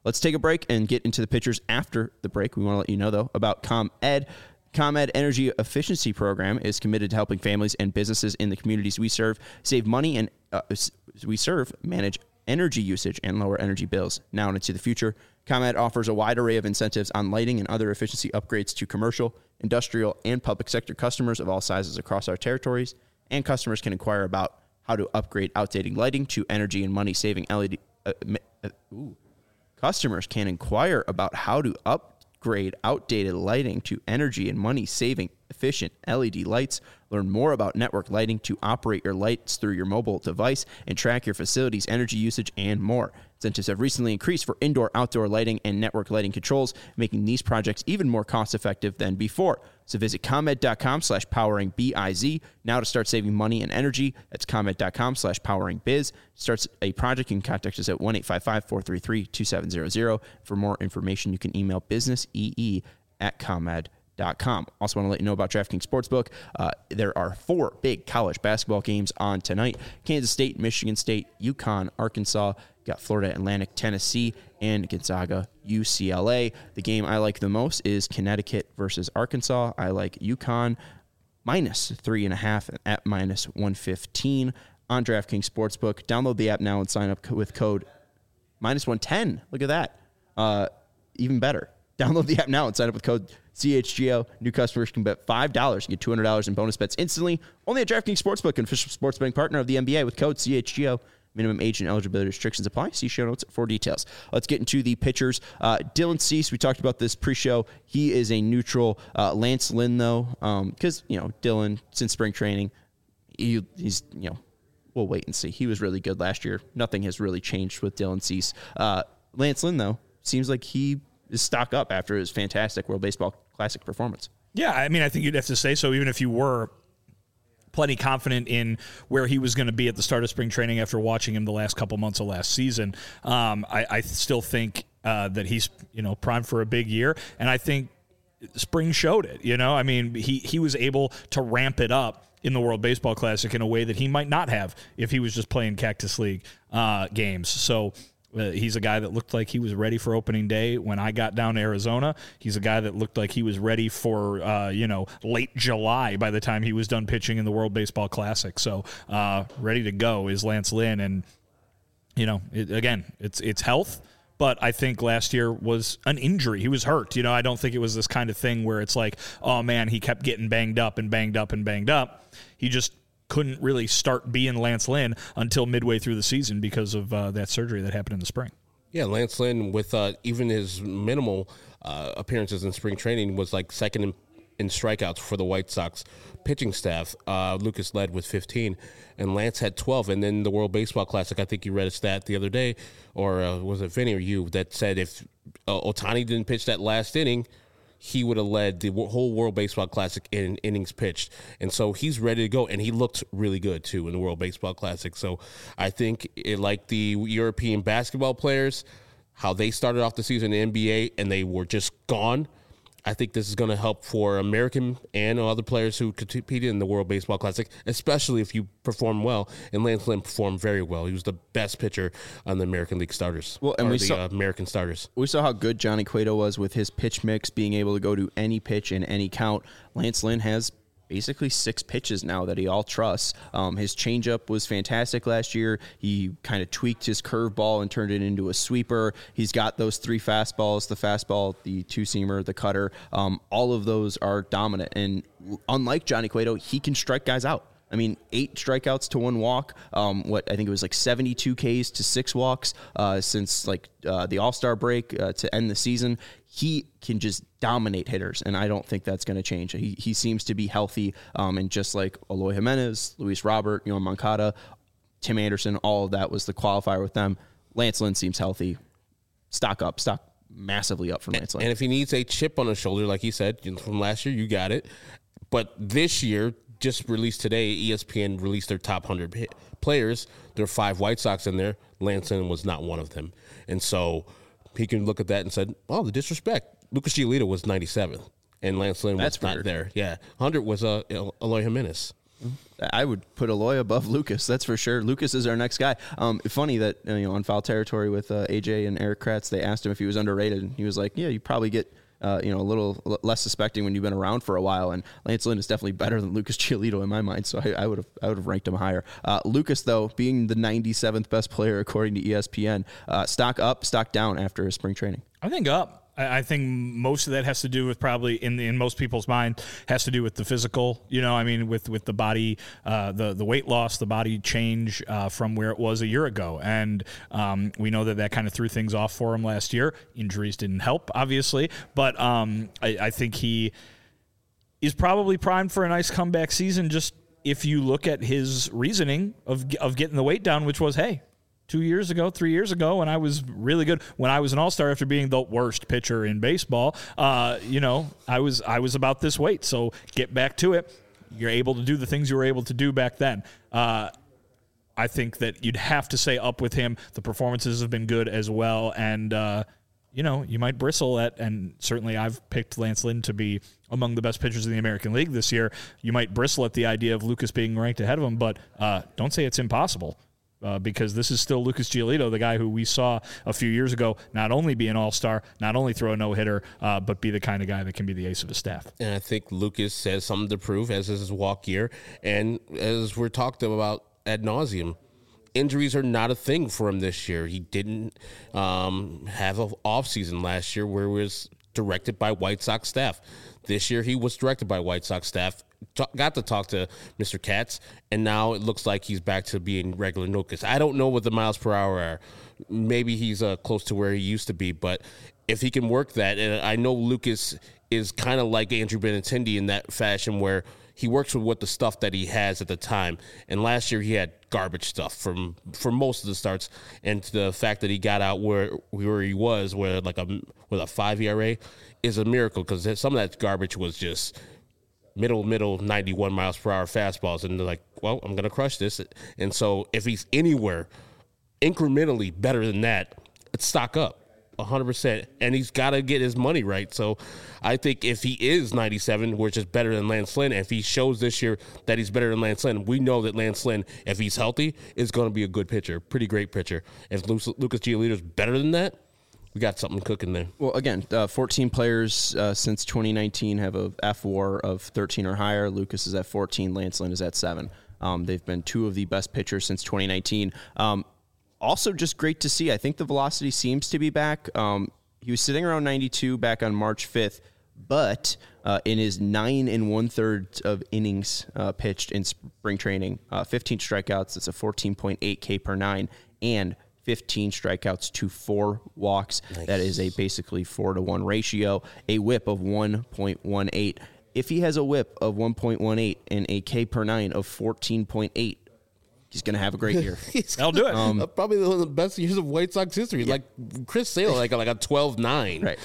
Let's take a break and get into the pictures after the break. We want to let you know, though, about ComEd. ComEd Energy Efficiency Program is committed to helping families and businesses in the communities we serve save money and uh, we serve, manage energy usage, and lower energy bills now and into the future. ComEd offers a wide array of incentives on lighting and other efficiency upgrades to commercial, industrial, and public sector customers of all sizes across our territories, and customers can inquire about how to upgrade outdated lighting to energy and money-saving L E D. Uh, uh, ooh. Customers can inquire about how to upgrade outdated lighting to energy and money-saving efficient L E D lights. Learn more about network lighting to operate your lights through your mobile device and track your facility's energy usage and more. Incentives have recently increased for indoor, outdoor lighting and network lighting controls, making these projects even more cost-effective than before. So visit ComEd.com slash powering B-I-Z now to start saving money and energy. That's ComEd.com slash powering biz. Starts a project, you can contact us at one eight five five, four three three, two seven zero zero. For more information, you can email businessee at ComEd. Dot com. Also want to let you know about DraftKings Sportsbook. Uh, there are four big college basketball games on tonight. Kansas State, Michigan State, UConn, Arkansas. Got Florida Atlantic, Tennessee, and Gonzaga, U C L A. The game I like the most is Connecticut versus Arkansas. I like UConn minus three and a half at minus one fifteen on DraftKings Sportsbook. Download the app now and sign up with code minus one ten. Look at that. Uh, even better. Download the app now and sign up with code C H G O. New customers can bet five dollars and get two hundred dollars in bonus bets instantly. Only at DraftKings Sportsbook, an official sports betting partner of the N B A, with code C H G O. Minimum age and eligibility restrictions apply. See show notes for details. Let's get into the pitchers. Uh, Dylan Cease, we talked about this pre-show. He is a neutral. Uh, Lance Lynn, though, because, um, you know, Dylan, since spring training, he, he's, you know, we'll wait and see. He was really good last year. Nothing has really changed with Dylan Cease. Uh, Lance Lynn, though, seems like he is stock up after his fantastic World Baseball Classic performance. Yeah, I mean, I think you'd have to say so, even if you were plenty confident in where he was going to be at the start of spring training after watching him the last couple months of last season. Um, I, I still think uh, that he's, you know, primed for a big year, and I think spring showed it. You know, I mean, he he was able to ramp it up in the World Baseball Classic in a way that he might not have if he was just playing Cactus League uh, games. So Uh, he's a guy that looked like he was ready for opening day when I got down to Arizona. He's a guy that looked like he was ready for, uh, you know, late July by the time he was done pitching in the World Baseball Classic. So uh, ready to go is Lance Lynn. And, you know, it, again, it's it's health. But I think last year was an injury. He was hurt. You know, I don't think it was this kind of thing where it's like, oh, man, he kept getting banged up and banged up and banged up. He just couldn't really start being Lance Lynn until midway through the season because of uh, that surgery that happened in the spring. Yeah, Lance Lynn, with uh, even his minimal uh, appearances in spring training, was like second in, in strikeouts for the White Sox pitching staff. Uh, Lucas led with fifteen, and Lance had twelve. And then the World Baseball Classic, I think you read a stat the other day, or uh, was it Vinny or you, that said if uh, Ohtani didn't pitch that last inning, he would have led the whole World Baseball Classic in innings pitched. And so he's ready to go, and he looked really good, too, in the World Baseball Classic. So I think, it, like the European basketball players, how they started off the season in the N B A and they were just gone, I think this is going to help for American and other players who competed in the World Baseball Classic, especially if you perform well. And Lance Lynn performed very well. He was the best pitcher on the American League starters. Well, and we the saw uh, American starters. We saw how good Johnny Cueto was with his pitch mix, being able to go to any pitch in any count. Lance Lynn has basically six pitches now that he all trusts. Um, his changeup was fantastic last year. He kind of tweaked his curveball and turned it into a sweeper. He's got those three fastballs, the fastball, the two-seamer, the cutter. Um, all of those are dominant. And unlike Johnny Cueto, he can strike guys out. I mean, eight strikeouts to one walk. Um, what I think it was like seventy-two Ks to six walks uh, since like uh, the All-Star break uh, to end the season. He can just dominate hitters, and I don't think that's going to change. He he seems to be healthy, um, and just like Eloy Jimenez, Luis Robert, Yoan Moncada, Tim Anderson, all of that was the qualifier with them. Lance Lynn seems healthy. Stock up, stock massively up for Lance Lynn. And if he needs a chip on his shoulder, like he said from last year, you got it. But this year, just released today, E S P N released their top one hundred players. There are five White Sox in there. Lance Lynn was not one of them. And so he can look at that and said, oh, the disrespect. Lucas Giolito was ninety-seventh, and Lance Lynn was That's not weird. there. Yeah, one hundred was uh, Eloy Jimenez. I would put Eloy above Lucas. That's for sure. Lucas is our next guy. Um, funny that uh, you know on Foul Territory with uh, A J and Eric Kratz, they asked him if he was underrated, and he was like, "Yeah, you probably get uh, you know a little l- less suspecting when you've been around for a while." And Lance Lynn is definitely better than Lucas Giolito in my mind, so I would have I would have ranked him higher. Uh, Lucas, though, being the ninety-seventh best player according to E S P N, uh, stock up, stock down after his spring training. I think up. I think most of that has to do with probably in in most people's mind has to do with the physical, you know, I mean, with, with the body, uh, the, the weight loss, the body change uh, from where it was a year ago. And um, we know that that kind of threw things off for him last year. Injuries didn't help, obviously, but um, I, I think he is probably primed for a nice comeback season. Just if you look at his reasoning of of getting the weight down, which was, hey, Two years ago, three years ago, when I was really good, when I was an all-star after being the worst pitcher in baseball, uh, you know, I was I was about this weight. So get back to it. You're able to do the things you were able to do back then. Uh, I think that you'd have to say up with him. The performances have been good as well, and uh, you know, you might bristle at, and certainly I've picked Lance Lynn to be among the best pitchers in the American League this year. You might bristle at the idea of Lucas being ranked ahead of him, but uh, don't say it's impossible. Uh, because this is still Lucas Giolito, the guy who we saw a few years ago not only be an all-star, not only throw a no-hitter, uh, but be the kind of guy that can be the ace of his staff. And I think Lucas has something to prove, as is his walk year. And as we're talked about ad nauseum, injuries are not a thing for him this year. He didn't um, have an offseason last year where he was directed by White Sox staff. This year he was directed by White Sox staff. Got to talk to Mister Katz, and now it looks like he's back to being regular Lucas. I don't know what the miles per hour are. Maybe he's uh, close to where he used to be, but if he can work that, and I know Lucas is kind of like Andrew Benintendi in that fashion where he works with what the stuff that he has at the time. And last year he had garbage stuff from for most of the starts, and the fact that he got out where where he was, where like a with a five E R A, is a miracle because some of that garbage was just middle, middle, ninety-one miles per hour fastballs. And they're like, well, I'm going to crush this. And so if he's anywhere incrementally better than that, it's stock up one hundred percent. And he's got to get his money right. So I think if he is ninety-seven, which is better than Lance Lynn, and if he shows this year that he's better than Lance Lynn, we know that Lance Lynn, if he's healthy, is going to be a good pitcher, pretty great pitcher. If Lucas Giolito is better than that, we got something cooking there. Well, again, uh, fourteen players uh, since twenty nineteen have a F W A R of thirteen or higher. Lucas is at fourteen. Lance Lynn is at seven. Um, they've been two of the best pitchers since twenty nineteen. Um, also, just great to see. I think the velocity seems to be back. Um, he was sitting around ninety-two back on March fifth, but uh, in his nine and one-third of innings uh, pitched in spring training, uh, fifteen strikeouts. It's a fourteen point eight K per nine, and fifteen strikeouts to four walks. Nice. That is a basically four to one ratio, a whip of one point one eight. If he has a whip of one point one eight and a K per nine of fourteen point eight, he's going to have a great year. I'll do it. Um, probably one of the best years of White Sox history. Yeah. Like Chris Sale, like, like a twelve nine. Right.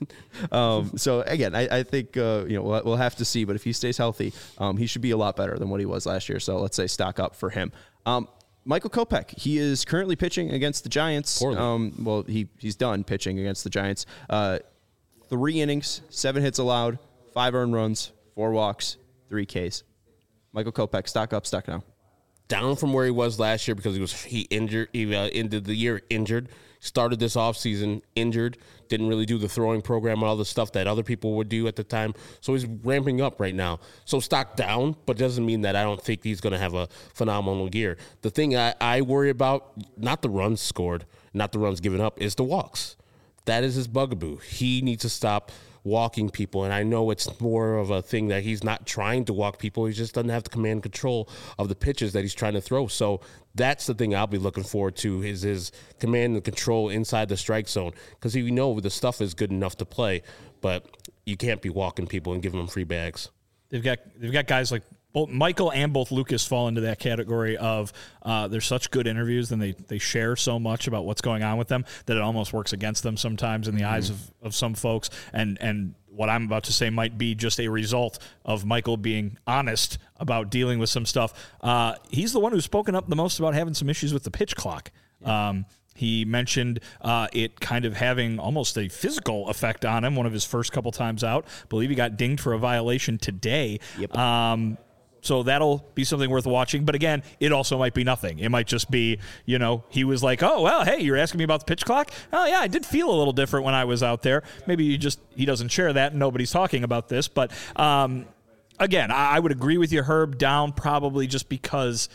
Um, so, again, I, I think uh, you know we'll, we'll have to see. But if he stays healthy, um, he should be a lot better than what he was last year. So let's say stock up for him. Um, Michael Kopech, he is currently pitching against the Giants. Um, well, he he's done pitching against the Giants. Uh, three innings, seven hits allowed, five earned runs, four walks, three Ks. Michael Kopech, stock up, stock down. Down from where he was last year because he was he injured. He uh, ended the year injured. Started this offseason injured. Didn't really do the throwing program and all the stuff that other people would do at the time. So he's ramping up right now. So stock down, but doesn't mean that I don't think he's going to have a phenomenal year. The thing I, I worry about, not the runs scored, not the runs given up, is the walks. That is his bugaboo. He needs to stop walking people, and I know it's more of a thing that he's not trying to walk people. He just doesn't have the command control of the pitches that he's trying to throw. So that's the thing I'll be looking forward to is his command and control inside the strike zone, because we know the stuff is good enough to play, but you can't be walking people and giving them free bags. They've got they've got guys like both Michael and both Lucas fall into that category of uh, they're such good interviews and they, they share so much about what's going on with them that it almost works against them sometimes in the mm-hmm. eyes of, of some folks. And and what I'm about to say might be just a result of Michael being honest about dealing with some stuff. Uh, he's the one who's spoken up the most about having some issues with the pitch clock. Yeah. Um, He mentioned uh, it kind of having almost a physical effect on him one of his first couple times out. I believe he got dinged for a violation today. Yep. Um, So that'll be something worth watching. But again, it also might be nothing. It might just be, you know, he was like, oh, well, hey, you're asking me about the pitch clock? Oh, yeah, I did feel a little different when I was out there. Maybe you just, he doesn't share that and nobody's talking about this. But um, again, I, I would agree with you, Herb, down probably just because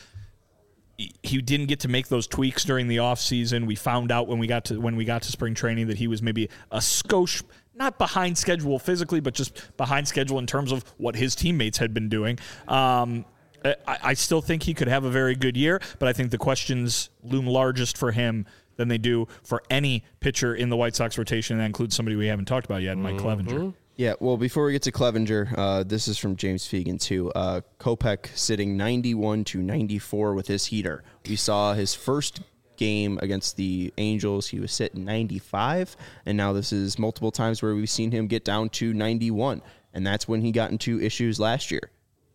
he didn't get to make those tweaks during the offseason. We found out when we got to when we got to spring training that he was maybe a skosh, not behind schedule physically, but just behind schedule in terms of what his teammates had been doing. Um, I, I still think he could have a very good year, but I think the questions loom largest for him than they do for any pitcher in the White Sox rotation. And that includes somebody we haven't talked about yet, Mike mm-hmm. Clevinger. Yeah, well, before we get to Clevinger, uh, this is from James Fegan, too. Uh, Kopech sitting ninety-one to ninety-four with his heater. We saw his first game against the Angels. He was sitting ninety-five, and now this is multiple times where we've seen him get down to ninety-one, and that's when he got into issues last year.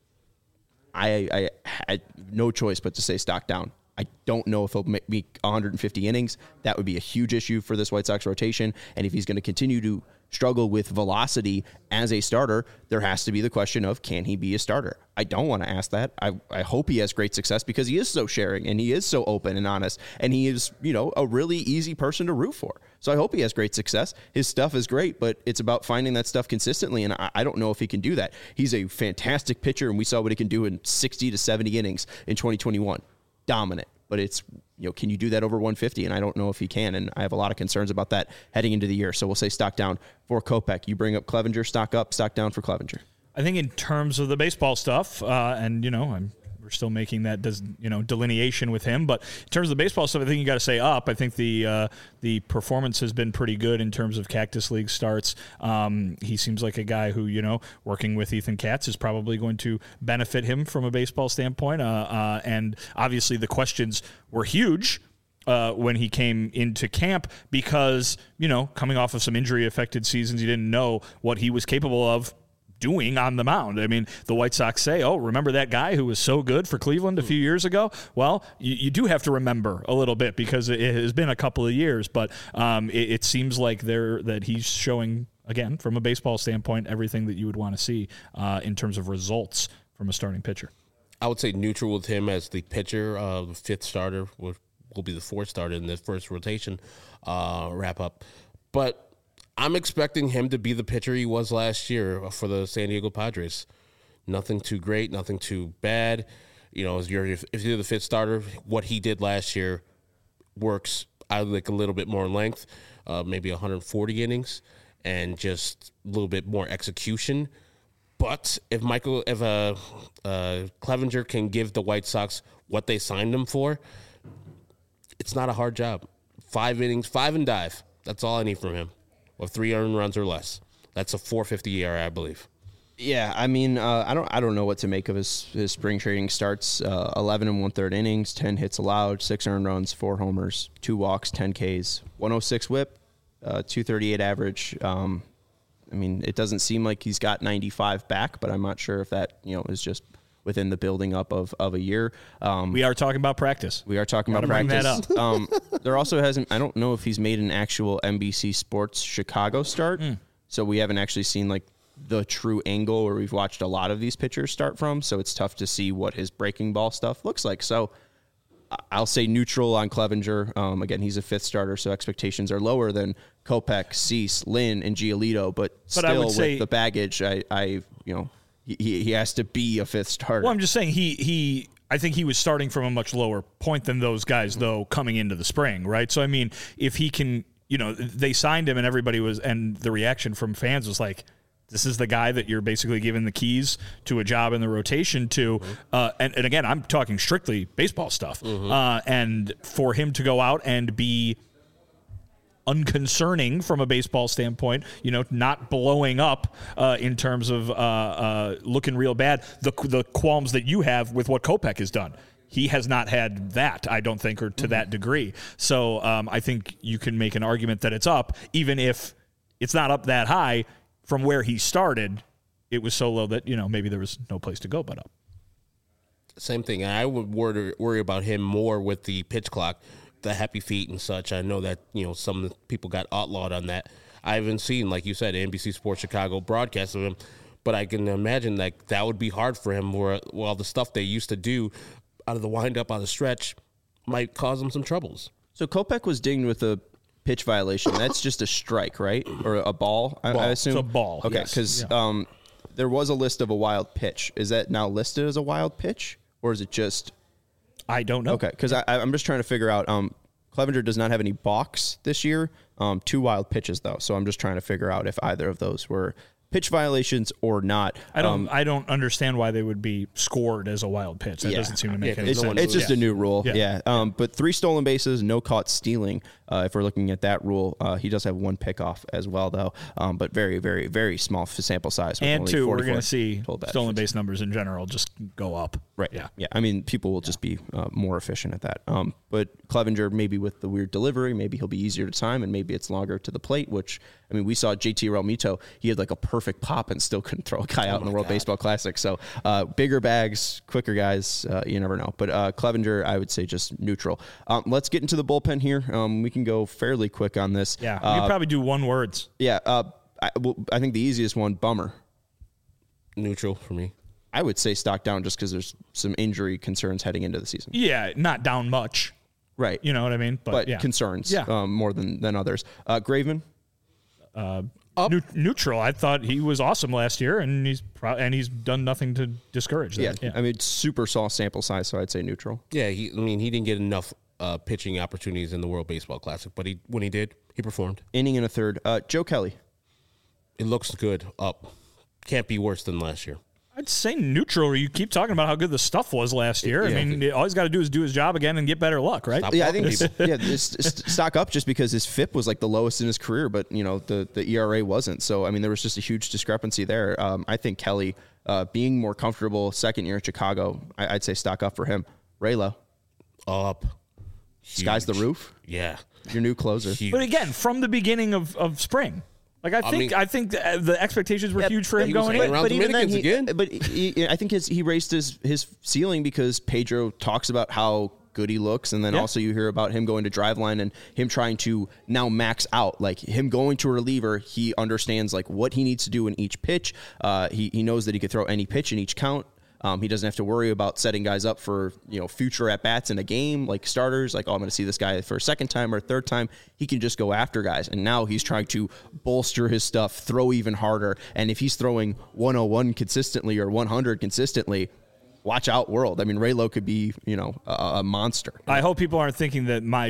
I, I had no choice but to say stock down. I don't know if he'll make one hundred fifty innings. That would be a huge issue for this White Sox rotation, and if he's going to continue to struggle with velocity as a starter, there has to be the question of, can he be a starter? I don't want to ask that. I, I hope he has great success because he is so sharing and he is so open and honest, and he is, you know, a really easy person to root for. So I hope he has great success. His stuff is great, but it's about finding that stuff consistently, and I, I don't know if he can do that. He's a fantastic pitcher, and we saw what he can do in sixty to seventy innings in twenty twenty-one. Dominant. But it's, you know, can you do that over one fifty? And I don't know if he can, and I have a lot of concerns about that heading into the year. So we'll say stock down for Kopech. You bring up Clevinger, stock up, stock down for Clevinger. I think in terms of the baseball stuff, uh, and, you know, I'm we're still making that, does you know, delineation with him. But in terms of the baseball stuff, I think you got to say up. I think the uh, the performance has been pretty good in terms of Cactus League starts. Um, he seems like a guy who, you know, working with Ethan Katz is probably going to benefit him from a baseball standpoint. Uh, uh, and obviously the questions were huge Uh, when he came into camp because, you know, coming off of some injury-affected seasons, you didn't know what he was capable of doing on the mound. I mean, the White Sox say, oh, remember that guy who was so good for Cleveland a few years ago? Well, you, you do have to remember a little bit because it has been a couple of years, but um, it, it seems like they're, that he's showing, again, from a baseball standpoint, everything that you would want to see uh, in terms of results from a starting pitcher. I would say neutral with him as the pitcher, uh, the fifth starter, will, will be the fourth starter in the first rotation uh, wrap-up. But I'm expecting him to be the pitcher he was last year for the San Diego Padres. Nothing too great, nothing too bad. You know, if you're, if you're the fifth starter, what he did last year works. I would like a little bit more length, uh, maybe one hundred forty innings, and just a little bit more execution. But if Michael, if uh, uh, Clevinger can give the White Sox what they signed him for, it's not a hard job. Five innings, five and dive. That's all I need from him. With three earned runs or less. That's a four fifty E R A, I believe. Yeah, I mean, uh, I don't, I don't know what to make of his, his spring training starts. Uh, Eleven and one third innings, ten hits allowed, six earned runs, four homers, two walks, ten Ks, one oh six WHIP, uh, two thirty-eight average. Um, I mean, it doesn't seem like he's got ninety-five back, but I'm not sure if that, you know, is just within the building up of, of a year. Um, we are talking about practice. We are talking Gotta about bring practice. That up. um, there also hasn't, I don't know if he's made an actual N B C Sports Chicago start. Mm. So we haven't actually seen like the true angle where we've watched a lot of these pitchers start from. So it's tough to see what his breaking ball stuff looks like. So I'll say neutral on Clevinger. Um, again, he's a fifth starter, so expectations are lower than Kopech, Cease, Lynn, and Giolito. But, but still, with say, the baggage, I, I, you know, he he has to be a fifth starter. Well, I'm just saying he he. I think he was starting from a much lower point than those guys, though, coming into the spring, right? So I mean, if he can, you know, they signed him, and everybody was, and the reaction from fans was like, this is the guy that you're basically giving the keys to a job in the rotation to. Mm-hmm. Uh, and, and again, I'm talking strictly baseball stuff. Mm-hmm. Uh, and for him to go out and be unconcerning from a baseball standpoint, you know, not blowing up uh, in terms of uh, uh, looking real bad, the the qualms that you have with what Kopech has done. He has not had that, I don't think, or to mm-hmm. that degree. So um, I think you can make an argument that it's up, even if it's not up that high. From where he started, it was so low that, you know, maybe there was no place to go but up. Same thing. I would worry, worry about him more with the pitch clock, the happy feet and such. I know that, you know, some people got outlawed on that. I haven't seen, like you said, N B C Sports Chicago broadcast of him, but I can imagine like that would be hard for him. Where well, the stuff they used to do out of the windup, out of the stretch, might cause him some troubles. So Kopech was dinged with a pitch violation. That's just a strike, right? Or a ball, I, Ball. I assume? It's a ball, Okay, yes. because Yeah. um, there was a list of a wild pitch. Is that now listed as a wild pitch? Or is it just... I don't know. Okay, because I'm just trying to figure out... Um, Clevenger does not have any balks this year. Um, two wild pitches, though. So I'm just trying to figure out if either of those were pitch violations or not. I don't. Um, I don't understand why they would be scored as a wild pitch. That Yeah. doesn't seem to make Yeah, any It's, no sense. one- it's just yeah. a new rule, yeah. Yeah. Um, but three stolen bases, no caught stealing. Uh, if we're looking at that rule, uh, he does have one pickoff as well, though. Um, but very, very, very small f- sample size. with and only two, we're forty-four going to see total bats. stolen base numbers in general just go up. Right. Yeah. Yeah. I mean, people will just be uh, more efficient at that. Um, but Clevenger, maybe with the weird delivery, maybe he'll be easier to time, and maybe it's longer to the plate. Which I mean, we saw J T Realmuto. He had like a perfect pop and still couldn't throw a guy out in the World Baseball Classic. So uh, bigger bags, quicker guys. Uh, you never know. But uh, Clevenger, I would say just neutral. Um, let's get into the bullpen here. Um, we can go fairly quick on this. Yeah. Uh, you could probably do one words. yeah. Uh, I, well, I think the easiest one, bummer. Neutral for me. I would say stock down just because there's some injury concerns heading into the season. Yeah, not down much. Right. You know what I mean? But, but yeah. concerns Yeah. um, more than, than others. Uh, Graveman, Neu- neutral. I thought he was awesome last year, and he's pro- and he's done nothing to discourage yeah, that. Yeah. I mean, super small sample size, so I'd say neutral. Yeah, he, I mean, he didn't get enough uh, pitching opportunities in the World Baseball Classic, but he when he did, he performed. Inning and a third. Uh, Joe Kelly, It looks good up. Can't be worse than last year. I'd say neutral. You keep talking about how good the stuff was last year. I Yeah. mean, all he's got to do is do his job again and get better luck, right? Stop yeah, I walking think it's, people. yeah, this, st- stock up just because his F I P was like the lowest in his career, but you know the the E R A wasn't. So I mean, there was just a huge discrepancy there. Um, I think Kelly uh, being more comfortable second year in Chicago, I, I'd say stock up for him. Raylo, Up. sky's the Huge. roof. Yeah. Your new closer. Huge. But again, from the beginning of, of spring, like I think mean- I think the, the expectations were huge for him he was going hanging in. around But even then, Dominicans he, again. but he, I think his, he raised his his ceiling because Pedro talks about how good he looks, and then Yeah. also you hear about him going to Driveline and him trying to now max out. Like him going to a reliever, he understands like what he needs to do in each pitch. Uh, he he knows that he could throw any pitch in each count. Um, he doesn't have to worry about setting guys up for, you know, future at bats in a game, like starters, like, oh, I'm going to see this guy for a second time or a third time. He can just go after guys. And now he's trying to bolster his stuff, throw even harder. And if he's throwing one oh one consistently or one hundred consistently, watch out, world. I mean, Raylo could be, you know, a, a monster. I hope people aren't thinking that my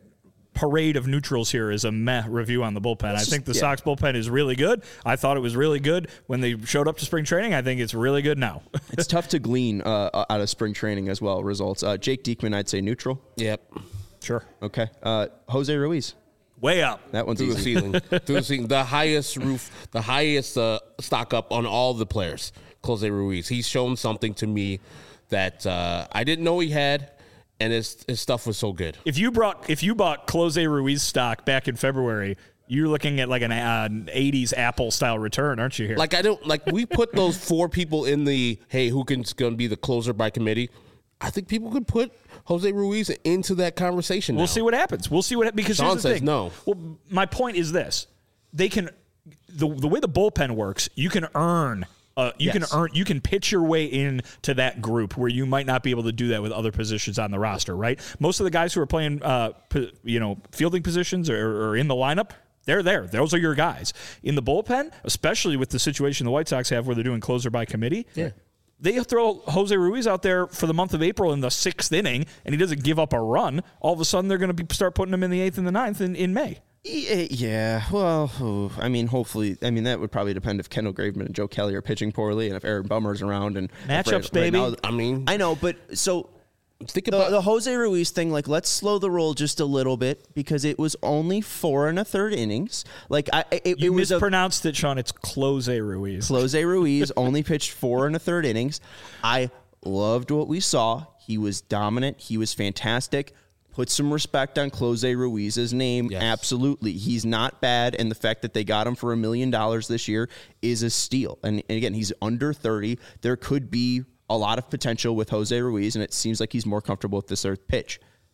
parade of neutrals here is a meh review on the bullpen. I think the yeah. Sox bullpen is really good. I thought it was really good when they showed up to spring training. I think it's really good now. It's tough to glean uh, out of spring training as well, results. Uh, Jake Diekman, I'd say neutral. Yep. Sure. Okay. Uh, Jose Ruiz. Way up. That one's Through the easy. ceiling. Through the ceiling. The highest roof, the highest uh, stock up on all the players. Jose Ruiz. He's shown something to me that uh, I didn't know he had, and his his stuff was so good. If you brought if you bought Close Ruiz stock back in February, you're looking at like an, uh, an eighties Apple style return, aren't you here? Like I don't like we put those four people in the hey who can going to be the closer by committee. I think people could put Jose Ruiz into that conversation. We'll now. see what happens. We'll see what because Sean here's the says thing. no. Well, my point is this: they can the the way the bullpen works. You can earn. Uh, you Yes. can earn. You can pitch your way into that group where you might not be able to do that with other positions on the roster. Right? Most of the guys who are playing, uh, p- you know, fielding positions or, or in the lineup. They're there. Those are your guys. In the bullpen, especially with the situation the White Sox have where they're doing closer by committee. Yeah. They throw Jose Ruiz out there for the month of April in the sixth inning, and he doesn't give up a run. All of a sudden, they're going to be start putting him in the eighth and the ninth in, in May. Yeah, yeah, well, oh, I mean, hopefully, I mean, that would probably depend if Kendall Graveman and Joe Kelly are pitching poorly and if Aaron Bummer's around. And Matchups, right- right baby. now- I mean, I know, but so think the, about the Jose Ruiz thing, like, let's slow the roll just a little bit because it was only four and a third innings. Like, I, it, You it was a mispronounced it, Sean. It's Close Ruiz. Jose Ruiz only pitched four and a third innings. I loved what we saw. He was dominant. He was fantastic. Put some respect on Close Ruiz's name. Yes. Absolutely. He's not bad, and the fact that they got him for a million dollars this year is a steal. And, and again, he's under thirty. There could be a lot of potential with Jose Ruiz, and it seems like he's more comfortable with this third pitch.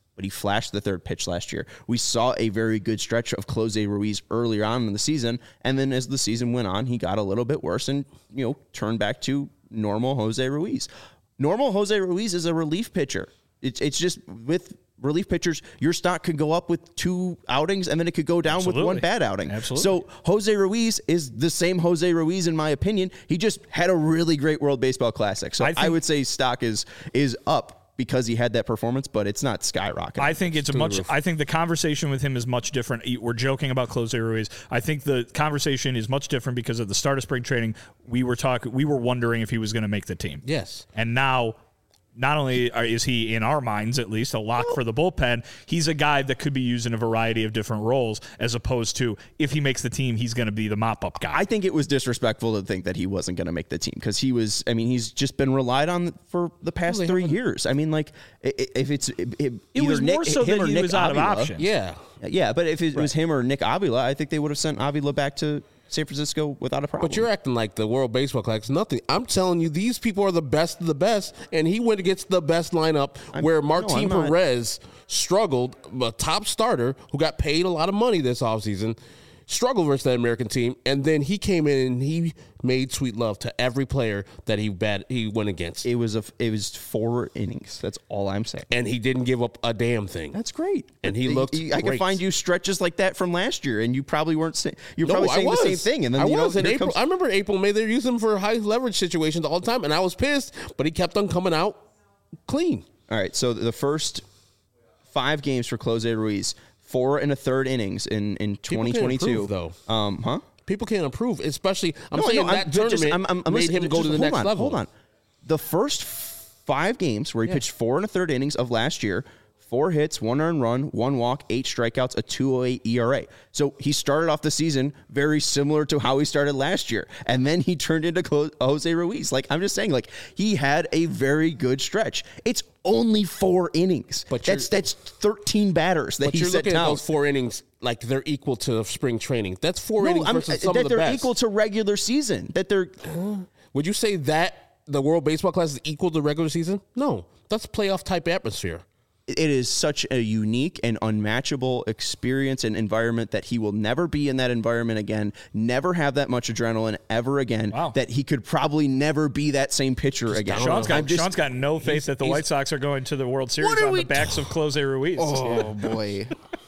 but he flashed the third pitch last year. We saw a very good stretch of Jose Ruiz earlier on in the season, and then as the season went on, he got a little bit worse and, you know, turned back to normal Jose Ruiz. Normal Jose Ruiz is a relief pitcher. It's it's just with relief pitchers, your stock could go up with two outings, and then it could go down Absolutely. with one bad outing. Absolutely. So Jose Ruiz is the same Jose Ruiz, in my opinion. He just had a really great World Baseball Classic. So I, I, I would say stock is is up because he had that performance, but it's not skyrocketing. I think it's a much. I think the conversation with him is much different. We're joking about Jose Ruiz. I think the conversation is much different because at the start of spring training, we were talking. We were wondering if he was going to make the team. Yes, and now. Not only is he, in our minds at least, a lock for the bullpen, he's a guy that could be used in a variety of different roles, as opposed to if he makes the team, he's going to be the mop-up guy. I think it was disrespectful to think that he wasn't going to make the team because he was, I mean, he's just been relied on for the past Really three haven't. years. I mean, like, if it's it, it either was Nick, more so him that or he Nick was out Avila, of options. yeah. Yeah, but if it was him or Nick Avila, I think they would have sent Avila back to San Francisco without a problem. But you're acting like the World Baseball Classic is nothing. I'm telling you, these people are the best of the best, and he went against the best lineup I'm, where no, Martin I'm not. Perez struggled, a top starter who got paid a lot of money this offseason, struggled versus that American team, and then he came in and he made sweet love to every player that he bat, he went against. It was a it was four innings. That's all I'm saying. And he didn't give up a damn thing. That's great. And he looked I can great. find you stretches like that from last year, and you probably weren't saying you're No, probably I saying was. the same thing. And then I you know, was in here April. comes- I remember in April, May they used him for high leverage situations all the time, and I was pissed. But he kept on coming out clean. All right, so the first five games for Jose Ruiz, four and a third innings in in twenty twenty-two. improve, though. Um, huh? People can't improve, especially. I'm No, saying no, that I'm- tournament just- I'm- I'm- I'm made listening- him go just to the hold next on, level. Hold on. The first five games where he Yeah. pitched four and a third innings of last year, four hits, one earned run, one walk, eight strikeouts, a two oh eight E R A. So he started off the season very similar to how he started last year, and then he turned into Clo- Jose Ruiz. Like I'm just saying, like he had a very good stretch. It's only four innings, But but you're- that's that's thirteen batters that But he you're set looking down. at those four innings like they're equal to spring training. That's four No, innings I'm- versus some that of the they're best. equal to regular season. That they're Would you say that the World Baseball Classic is equal to regular season? No, that's playoff type atmosphere. it is such a unique and unmatchable experience and environment that he will never be in that environment again, never have that much adrenaline ever again, Wow. that he could probably never be that same pitcher again. Sean's got, I'm just- Sean's got no faith that the he's- White Sox are going to the World Series are on we the backs of Jose Ruiz. Oh, boy.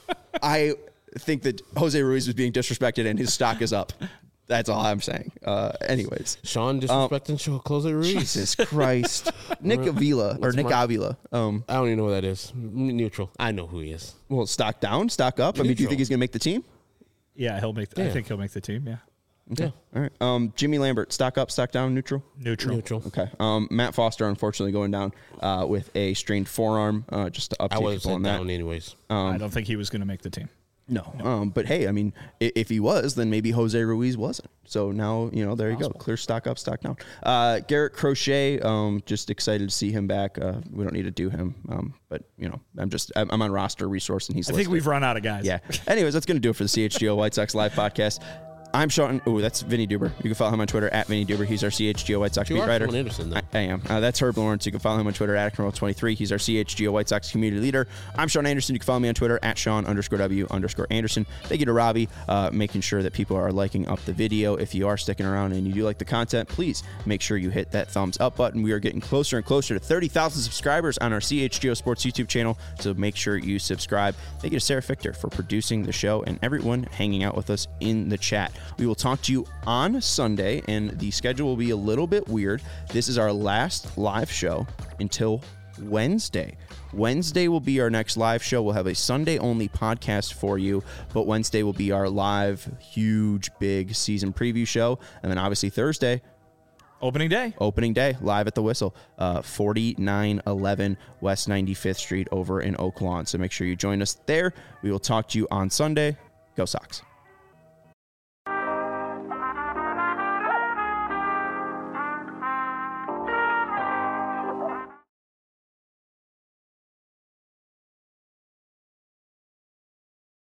I think that Jose Ruiz was being disrespected and his stock is up. That's all I'm saying. Uh, anyways. Sean disrespecting um, Jose Ruiz. Jesus Christ. Nick Avila, or What's Nick my- Avila. Um, I don't even know who that is. Neutral. I know who he is. well, stock down, stock up. I mean, do you Neutral. think he's going to make the team? Yeah, he'll make. The, I Yeah. think he'll make the team. Yeah, Okay. All right. Um, Jimmy Lambert, stock up, stock down, neutral? neutral. Neutral. Okay. Um, Matt Foster, unfortunately, going down uh, with a strained forearm. Uh, just to I update was people on that. down anyways. I don't think he was going to make the team. No. Um, but hey, I mean, i- if he was, then maybe Jose Ruiz wasn't. So now, you know, there you go. Clear stock up, stock down. Uh, Garrett Crochet, um, just excited to see him back. Uh, we don't need to do him. Um, but, you know, I'm just, I'm, I'm on roster resource and he's I think listed. we've run out of guys. Yeah. Anyways, that's going to do it for the C H G O White Sox Live podcast. I'm Sean. Oh, that's Vinny Duber. You can follow him on Twitter at Vinny Duber. He's our C H G O White Sox You beat are writer. Sean Anderson, though. I, I am. Uh, that's Herb Lawrence. You can follow him on Twitter at Admiral twenty-three. He's our C H G O White Sox community leader. I'm Sean Anderson. You can follow me on Twitter at Sean underscore W underscore Anderson. Thank you to Robbie, uh, making sure that people are liking up the video. If you are sticking around and you do like the content, please make sure you hit that thumbs up button. We are getting closer and closer to thirty thousand subscribers on our C H G O Sports YouTube channel, so make sure you subscribe. Thank you to Sarah Fichter for producing the show and everyone hanging out with us in the chat. We will talk to you on Sunday, and the schedule will be a little bit weird. This is our last live show until Wednesday. Wednesday will be our next live show. We'll have a Sunday only podcast for you, but Wednesday will be our live, huge, big season preview show. And then obviously Thursday, Opening day. opening day, live at the Whistle, uh, forty-nine eleven West ninety-fifth Street over in Oak Lawn. So make sure you join us there. We will talk to you on Sunday. Go Sox.